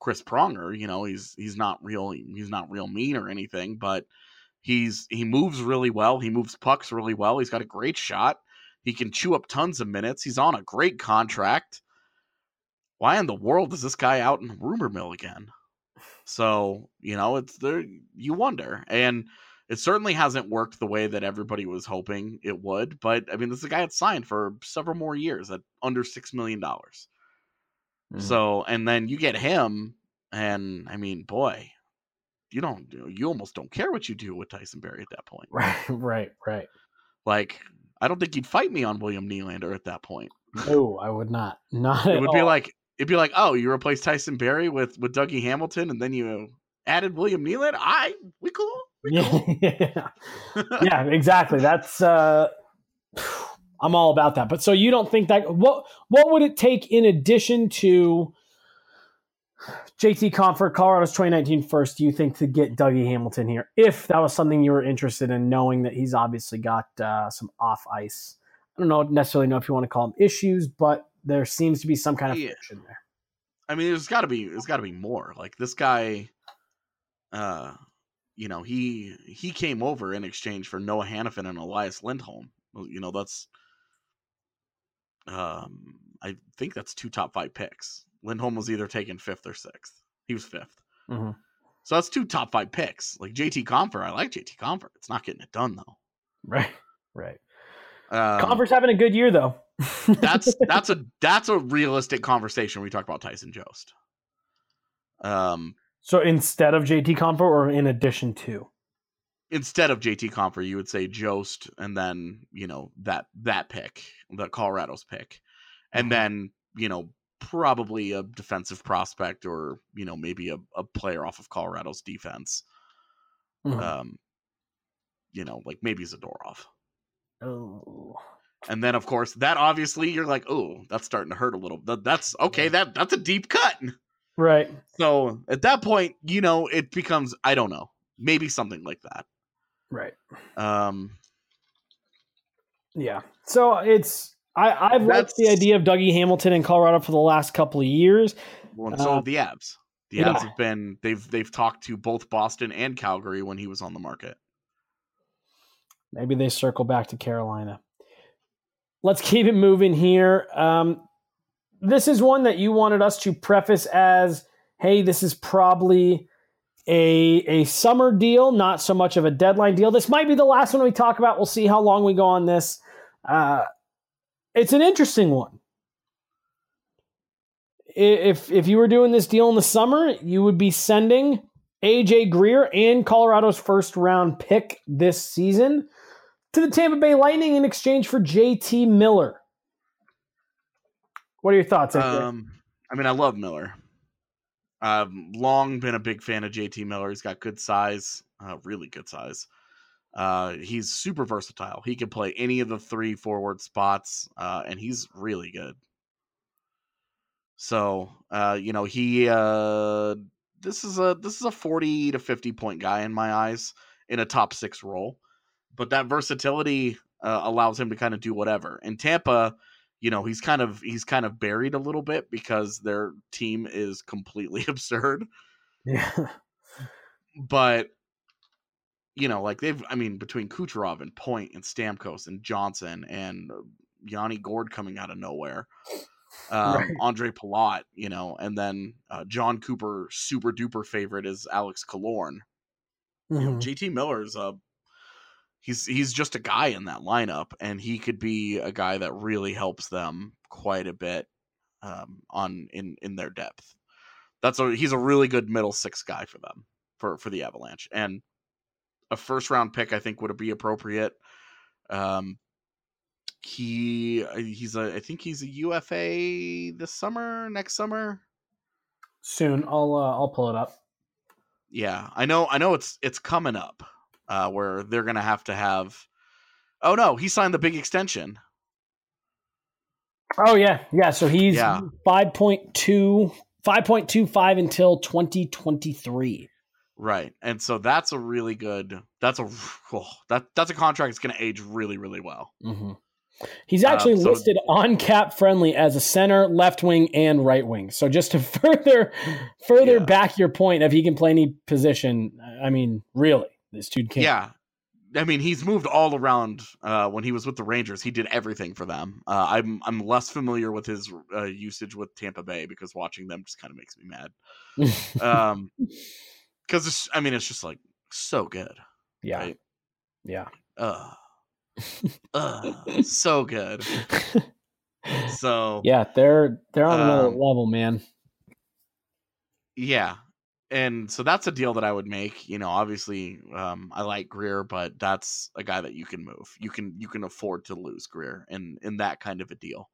Chris Pronger. You know, he's he's not real he's not real mean or anything, but he's he moves really well. He moves pucks really well. He's got a great shot. He can chew up tons of minutes. He's on a great contract. Why in the world is this guy out in rumor mill again? So, you know, it's there. You wonder. And it certainly hasn't worked the way that everybody was hoping it would. But, I mean, this is a guy that's signed for several more years at under six million dollars. Mm-hmm. So, and then you get him, and, I mean, boy, you don't, you almost don't care what you do with Tyson Barrie at that point. Right, right, right. Like, I don't think you'd fight me on William Nylander at that point. No, I would not. Not It at would all. be like, it'd be like, oh, you replaced Tyson Barrie with, with Dougie Hamilton, and then you added William Nylander? I, we cool. We cool. Yeah, yeah, exactly. That's, uh, I'm all about that. But so you don't think that, what, what would it take in addition to J T Compher, Colorado's twenty nineteen first, do you think, to get Dougie Hamilton here? If that was something you were interested in, knowing that he's obviously got uh, some off ice, I don't know necessarily know if you want to call them issues, but there seems to be some kind of Yeah. friction there. I mean, there's got to be, there's got to be more. Like this guy, uh, you know, he he came over in exchange for Noah Hannafin and Elias Lindholm. You know, that's, um, I think that's two top five picks. Lindholm was either taken fifth or sixth. He was fifth. Mm-hmm. So that's two top five picks. Like J T Compher, I like J T Compher. It's not getting it done though. Right, right. Um, Compher's having a good year though. that's that's a that's a realistic conversation when we talk about Tyson Jost. Um, so instead of J T Compher, or in addition to? Instead of J T Compher, you would say Jost, and then you know that that pick, the Colorado's pick, and mm-hmm. then you know probably a defensive prospect, or you know maybe a, a player off of Colorado's defense. Mm-hmm. Um, you know, like maybe Zadorov. Oh. And then, of course, that obviously you're like, oh, that's starting to hurt a little. That, that's okay. That that's a deep cut, right? So at that point, you know, it becomes, I don't know, maybe something like that, right? Um, yeah. So it's I I've liked the idea of Dougie Hamilton in Colorado for the last couple of years. Well, and so uh, have the Avs. The yeah. Avs have been they've they've talked to both Boston and Calgary when he was on the market. Maybe they circle back to Carolina. Let's keep it moving here. Um, this is one that you wanted us to preface as, hey, this is probably a, a summer deal, not so much of a deadline deal. This might be the last one we talk about. We'll see how long we go on this. Uh, it's an interesting one. If, if you were doing this deal in the summer, you would be sending A J Greer and Colorado's first round pick this season to the Tampa Bay Lightning in exchange for J T Miller. What are your thoughts? Um, I mean, I love Miller. I've long been a big fan of J T Miller. He's got good size, uh, really good size. Uh, he's super versatile. He can play any of the three forward spots, uh, and he's really good. So, uh, you know, he uh, this is a this is a forty to fifty point guy in my eyes in a top six role. But that versatility uh, allows him to kind of do whatever. In Tampa, you know, he's kind of he's kind of buried a little bit because their team is completely absurd. Yeah. But, you know, like they've, I mean, between Kucherov and Point and Stamkos and Johnson and Yanni Gourde coming out of nowhere, um, right. Andre Palat, you know, and then uh, John Cooper, super duper favorite is Alex Killorn. Mm-hmm. You know, J T Miller's a He's he's just a guy in that lineup, and he could be a guy that really helps them quite a bit um, on in, in their depth. That's a he's a really good middle six guy for them for, for the Avalanche, and a first round pick I think would be appropriate. Um, he he's a I think he's a U F A this summer, next summer. Soon, I'll uh, I'll pull it up. Yeah, I know I know it's it's coming up. Uh, where they're going to have to have... Oh, no, he signed the big extension. Oh, yeah. Yeah, so he's yeah. five point two, five point two five until twenty twenty-three. Right, and so that's a really good... That's a oh, that that's a contract that's going to age really, really well. Mm-hmm. He's actually Uh, so- listed on Cap Friendly as a center, left wing, and right wing. So just to further further Yeah. back your point, if he can play any position, I mean, really, this dude can. Yeah. I mean, he's moved all around. Uh, when he was with the Rangers, he did everything for them. Uh, I'm I'm less familiar with his uh, usage with Tampa Bay because watching them just kind of makes me mad. Um, because I mean, it's just like so good. Yeah. Right? Yeah. Uh, uh, so good. So Yeah, they're they're on another Um, level, man. yeah. And so that's a deal that I would make. You know, obviously, um, I like Greer, but that's a guy that you can move. You can you can afford to lose Greer in in that kind of a deal.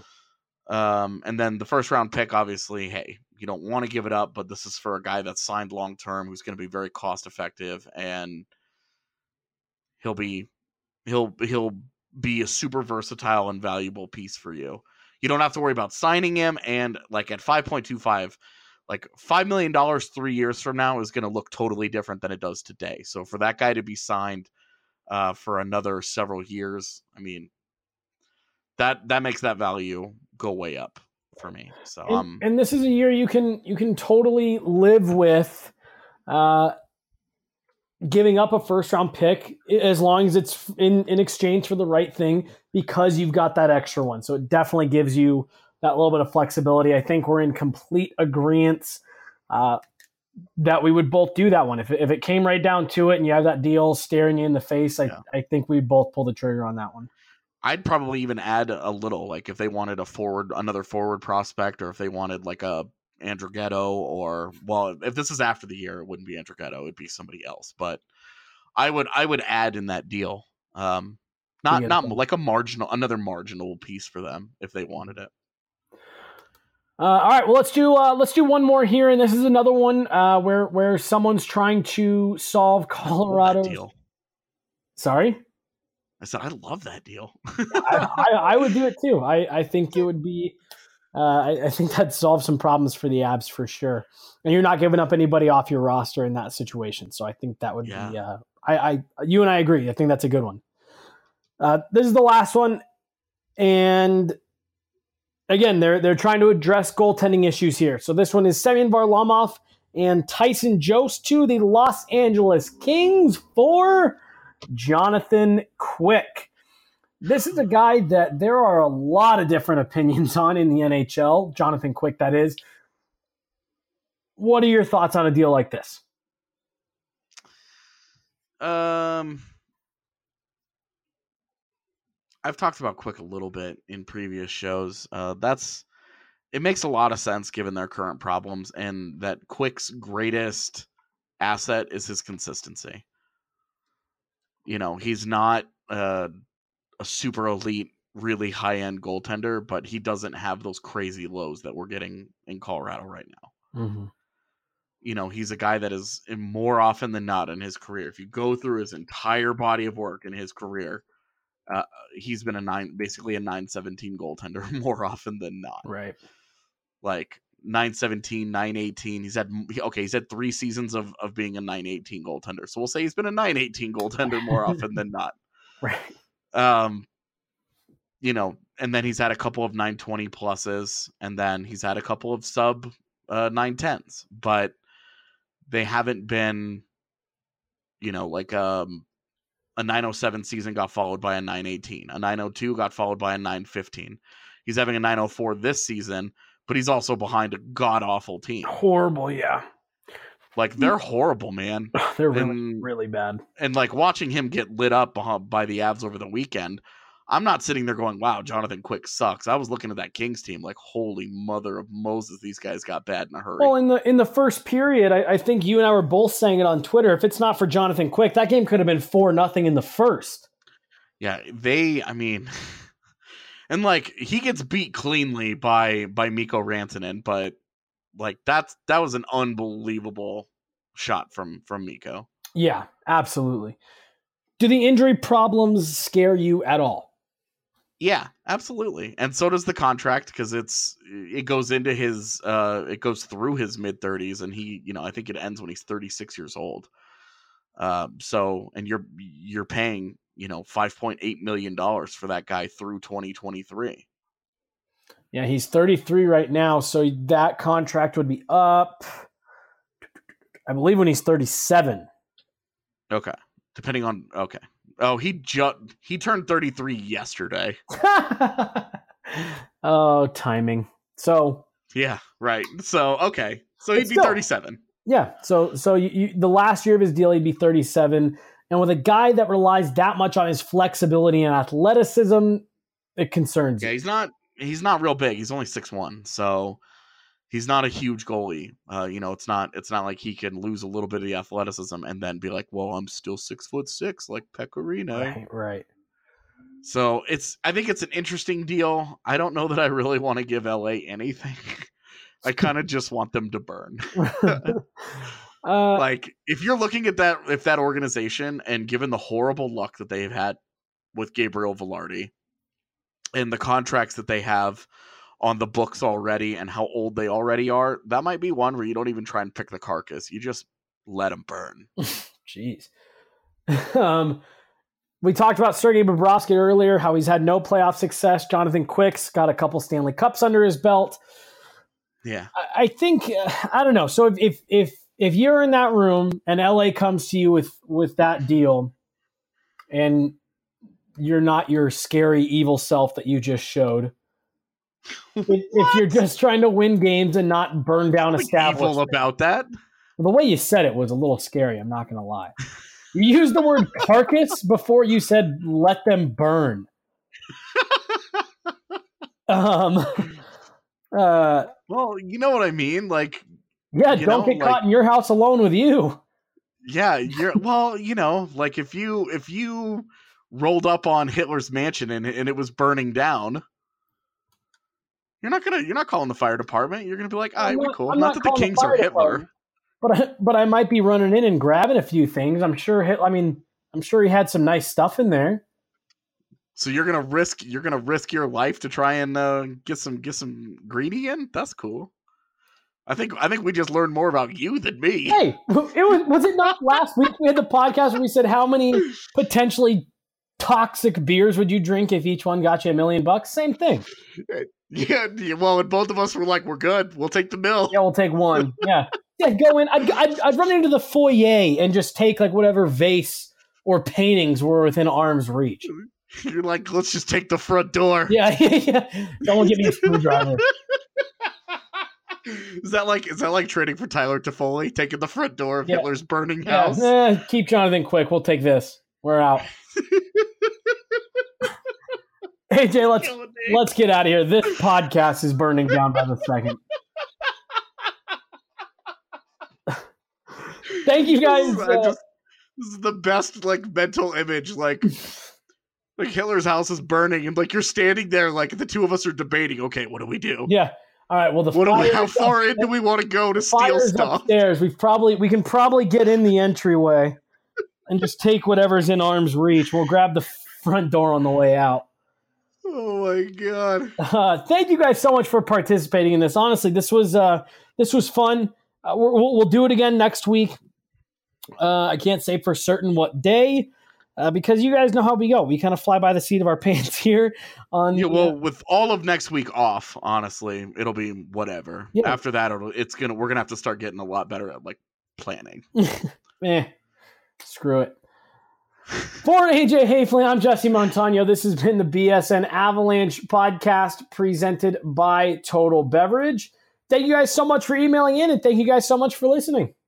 Um, and then the first round pick, obviously, hey, you don't want to give it up, but this is for a guy that's signed long term, who's going to be very cost effective, and he'll be he'll he'll be a super versatile and valuable piece for you. You don't have to worry about signing him, and like at five point two five. Like five million dollars three years from now is going to look totally different than it does today. So for that guy to be signed uh, for another several years, I mean, that that makes that value go way up for me. So And, um, and this is a year you can you can totally live with uh, giving up a first round pick as long as it's in, in exchange for the right thing, because you've got that extra one. So it definitely gives you that little bit of flexibility. I think we're in complete agreement uh, that we would both do that one. If it, if it came right down to it and you have that deal staring you in the face, I, Yeah. I think we'd both pull the trigger on that one. I'd probably even add a little, like if they wanted a forward, another forward prospect, or if they wanted like a Andrighetto, or well, if this is after the year, it wouldn't be Andrighetto, it'd be somebody else. But I would I would add in that deal, um, not Yeah, not fun. like a marginal, another marginal piece for them if they wanted it. Uh, all right, well let's do uh, let's do one more here, and this is another one uh, where where someone's trying to solve Colorado. That deal. Sorry, I said I love that deal. I, I, I would do it too. I, I think it would be. Uh, I, I think that solves some problems for the Abs for sure, and you're not giving up anybody off your roster in that situation. So I think that would Yeah. be. Uh, I, I you and I agree. I think that's a good one. Uh, this is the last one, and again, they're they're trying to address goaltending issues here. So this one is Semyon Varlamov and Tyson Jost to the Los Angeles Kings for Jonathan Quick. This is a guy that there are a lot of different opinions on in the N H L. Jonathan Quick, that is. What are your thoughts on a deal like this? Um, I've talked about Quick a little bit in previous shows. Uh, that's it makes a lot of sense given their current problems, and that Quick's greatest asset is his consistency. You know, he's not uh, a super elite, really high end goaltender, but he doesn't have those crazy lows that we're getting in Colorado right now. Mm-hmm. You know, he's a guy that is more often than not in his career. If you go through his entire body of work in his career, uh, he's been a nine, basically a nine seventeen goaltender more often than not. Right. Like nine seventeen, nine eighteen. He's had, okay, he's had three seasons of, of being a nine eighteen goaltender. So we'll say he's been a nine eighteen goaltender more often than not. Right. Um, you know, and then he's had a couple of nine twenty pluses, and then he's had a couple of sub uh, nine tens, but they haven't been, you know, like um, a nine oh seven season got followed by a nine eighteen. A nine oh two got followed by a nine fifteen. He's having a nine oh four this season, but he's also behind a god-awful team. Horrible, yeah. Like, they're horrible, man. They're really, And- really bad. And, like, watching him get lit up behind- by the Avs over the weekend, I'm not sitting there going, wow, Jonathan Quick sucks. I was looking at that Kings team like, holy mother of Moses, these guys got bad in a hurry. Well, in the in the first period, I, I think you and I were both saying it on Twitter. If it's not for Jonathan Quick, that game could have been four nothing in the first. Yeah, they, I mean, and like he gets beat cleanly by by Mikko Rantanen, but like that's that was an unbelievable shot from from Mikko. Yeah, absolutely. Do the injury problems scare you at all? Yeah, absolutely. And so does the contract, because it's it goes into his uh it goes through his mid thirties, and he, you know, I think it ends when he's thirty-six years old. Um, so and you're you're paying you know, five point eight million dollars for that guy through twenty twenty-three. Yeah, he's thirty-three right now, so that contract would be up, I believe, when he's thirty-seven. Okay. Depending on, okay. Oh, he just, he turned thirty-three yesterday. Oh, timing. So. Yeah, right. So, okay. So he'd be still, thirty-seven. Yeah. So, so you, you, the last year of his deal, he'd be thirty-seven. And with a guy that relies that much on his flexibility and athleticism, it concerns Yeah, you. he's not, he's not real big. He's only six one. So he's not a huge goalie. Uh, you know, it's not, it's not like he can lose a little bit of the athleticism and then be like, well, I'm still six foot six, like Pecorino. Right, right. So it's, I think it's an interesting deal. I don't know that I really want to give L A anything. I kind of just want them to burn. uh, like if you're looking at that, if that organization, and given the horrible luck that they've had with Gabriel Velarde and the contracts that they have on the books already and how old they already are, that might be one where you don't even try and pick the carcass. You just let them burn. Jeez. um, We talked about Sergei Bobrovsky earlier, how he's had no playoff success. Jonathan Quick's got a couple Stanley Cups under his belt. Yeah, I, I think uh, I don't know. So if, if if if you're in that room and L A comes to you with with that deal, and you're not your scary evil self that you just showed, if, if you're just trying to win games and not burn down like establishments, evil about that. The way you said it was a little scary. I'm not going to lie. You used the word carcass before you said let them burn. um. Uh. Well, you know what I mean. Like, yeah, you don't know, get like, caught in your house alone with you. Yeah, you're well. You know, like if you if you rolled up on Hitler's mansion and and it was burning down, you're not gonna you're not calling the fire department. You're gonna be like, all right, we're cool. I'm Not, not that the calling the Kings fire are Hitler. department. But I, but I might be running in and grabbing a few things. I'm sure. Hit, I mean, I'm sure he had some nice stuff in there. So you're gonna risk you're gonna risk your life to try and uh, get some get some greedy in. That's cool. I think I think we just learned more about you than me. Hey, it was was it not last week we had the podcast where we said how many potentially toxic beers would you drink if each one got you a million bucks? Same thing. Yeah. Well, and both of us were like, we're good. We'll take the mill. Yeah, we'll take one. Yeah. Yeah, go in. I'd, I'd, I'd run into the foyer and just take like whatever vase or paintings were within arm's reach. You're like, let's just take the front door. Yeah, yeah. Someone give me a screwdriver. Is that like is that like trading for Tyler Toffoli, taking the front door of yeah. Hitler's burning yeah. house? Eh, keep Jonathan Quick. We'll take this. We're out. Hey Jay, let's let's get out of here. This podcast is burning down by the second. Thank you guys. This is, uh, just, this is the best like mental image. Like, like Hitler's house is burning, and like you're standing there, like the two of us are debating. Okay, what do we do? Yeah. All right. Well, the what do we, how up, far in do we want to go to steal stuff? Upstairs. We've probably we can probably get in the entryway and just take whatever's in arm's reach. We'll grab the front door on the way out. Oh my god! Uh, thank you guys so much for participating in this. Honestly, this was uh, this was fun. Uh, we'll, we'll do it again next week. Uh, I can't say for certain what day, uh, because you guys know how we go. We kind of fly by the seat of our pants here. On yeah, the, well, uh, with all of next week off, honestly, it'll be whatever. Yeah. After that, it'll, it's gonna we're gonna have to start getting a lot better at like planning. eh, screw it. For A J Hafley, I'm Jesse Montano. This has been the B S N Avalanche podcast presented by Total Beverage. Thank you guys so much for emailing in, and thank you guys so much for listening.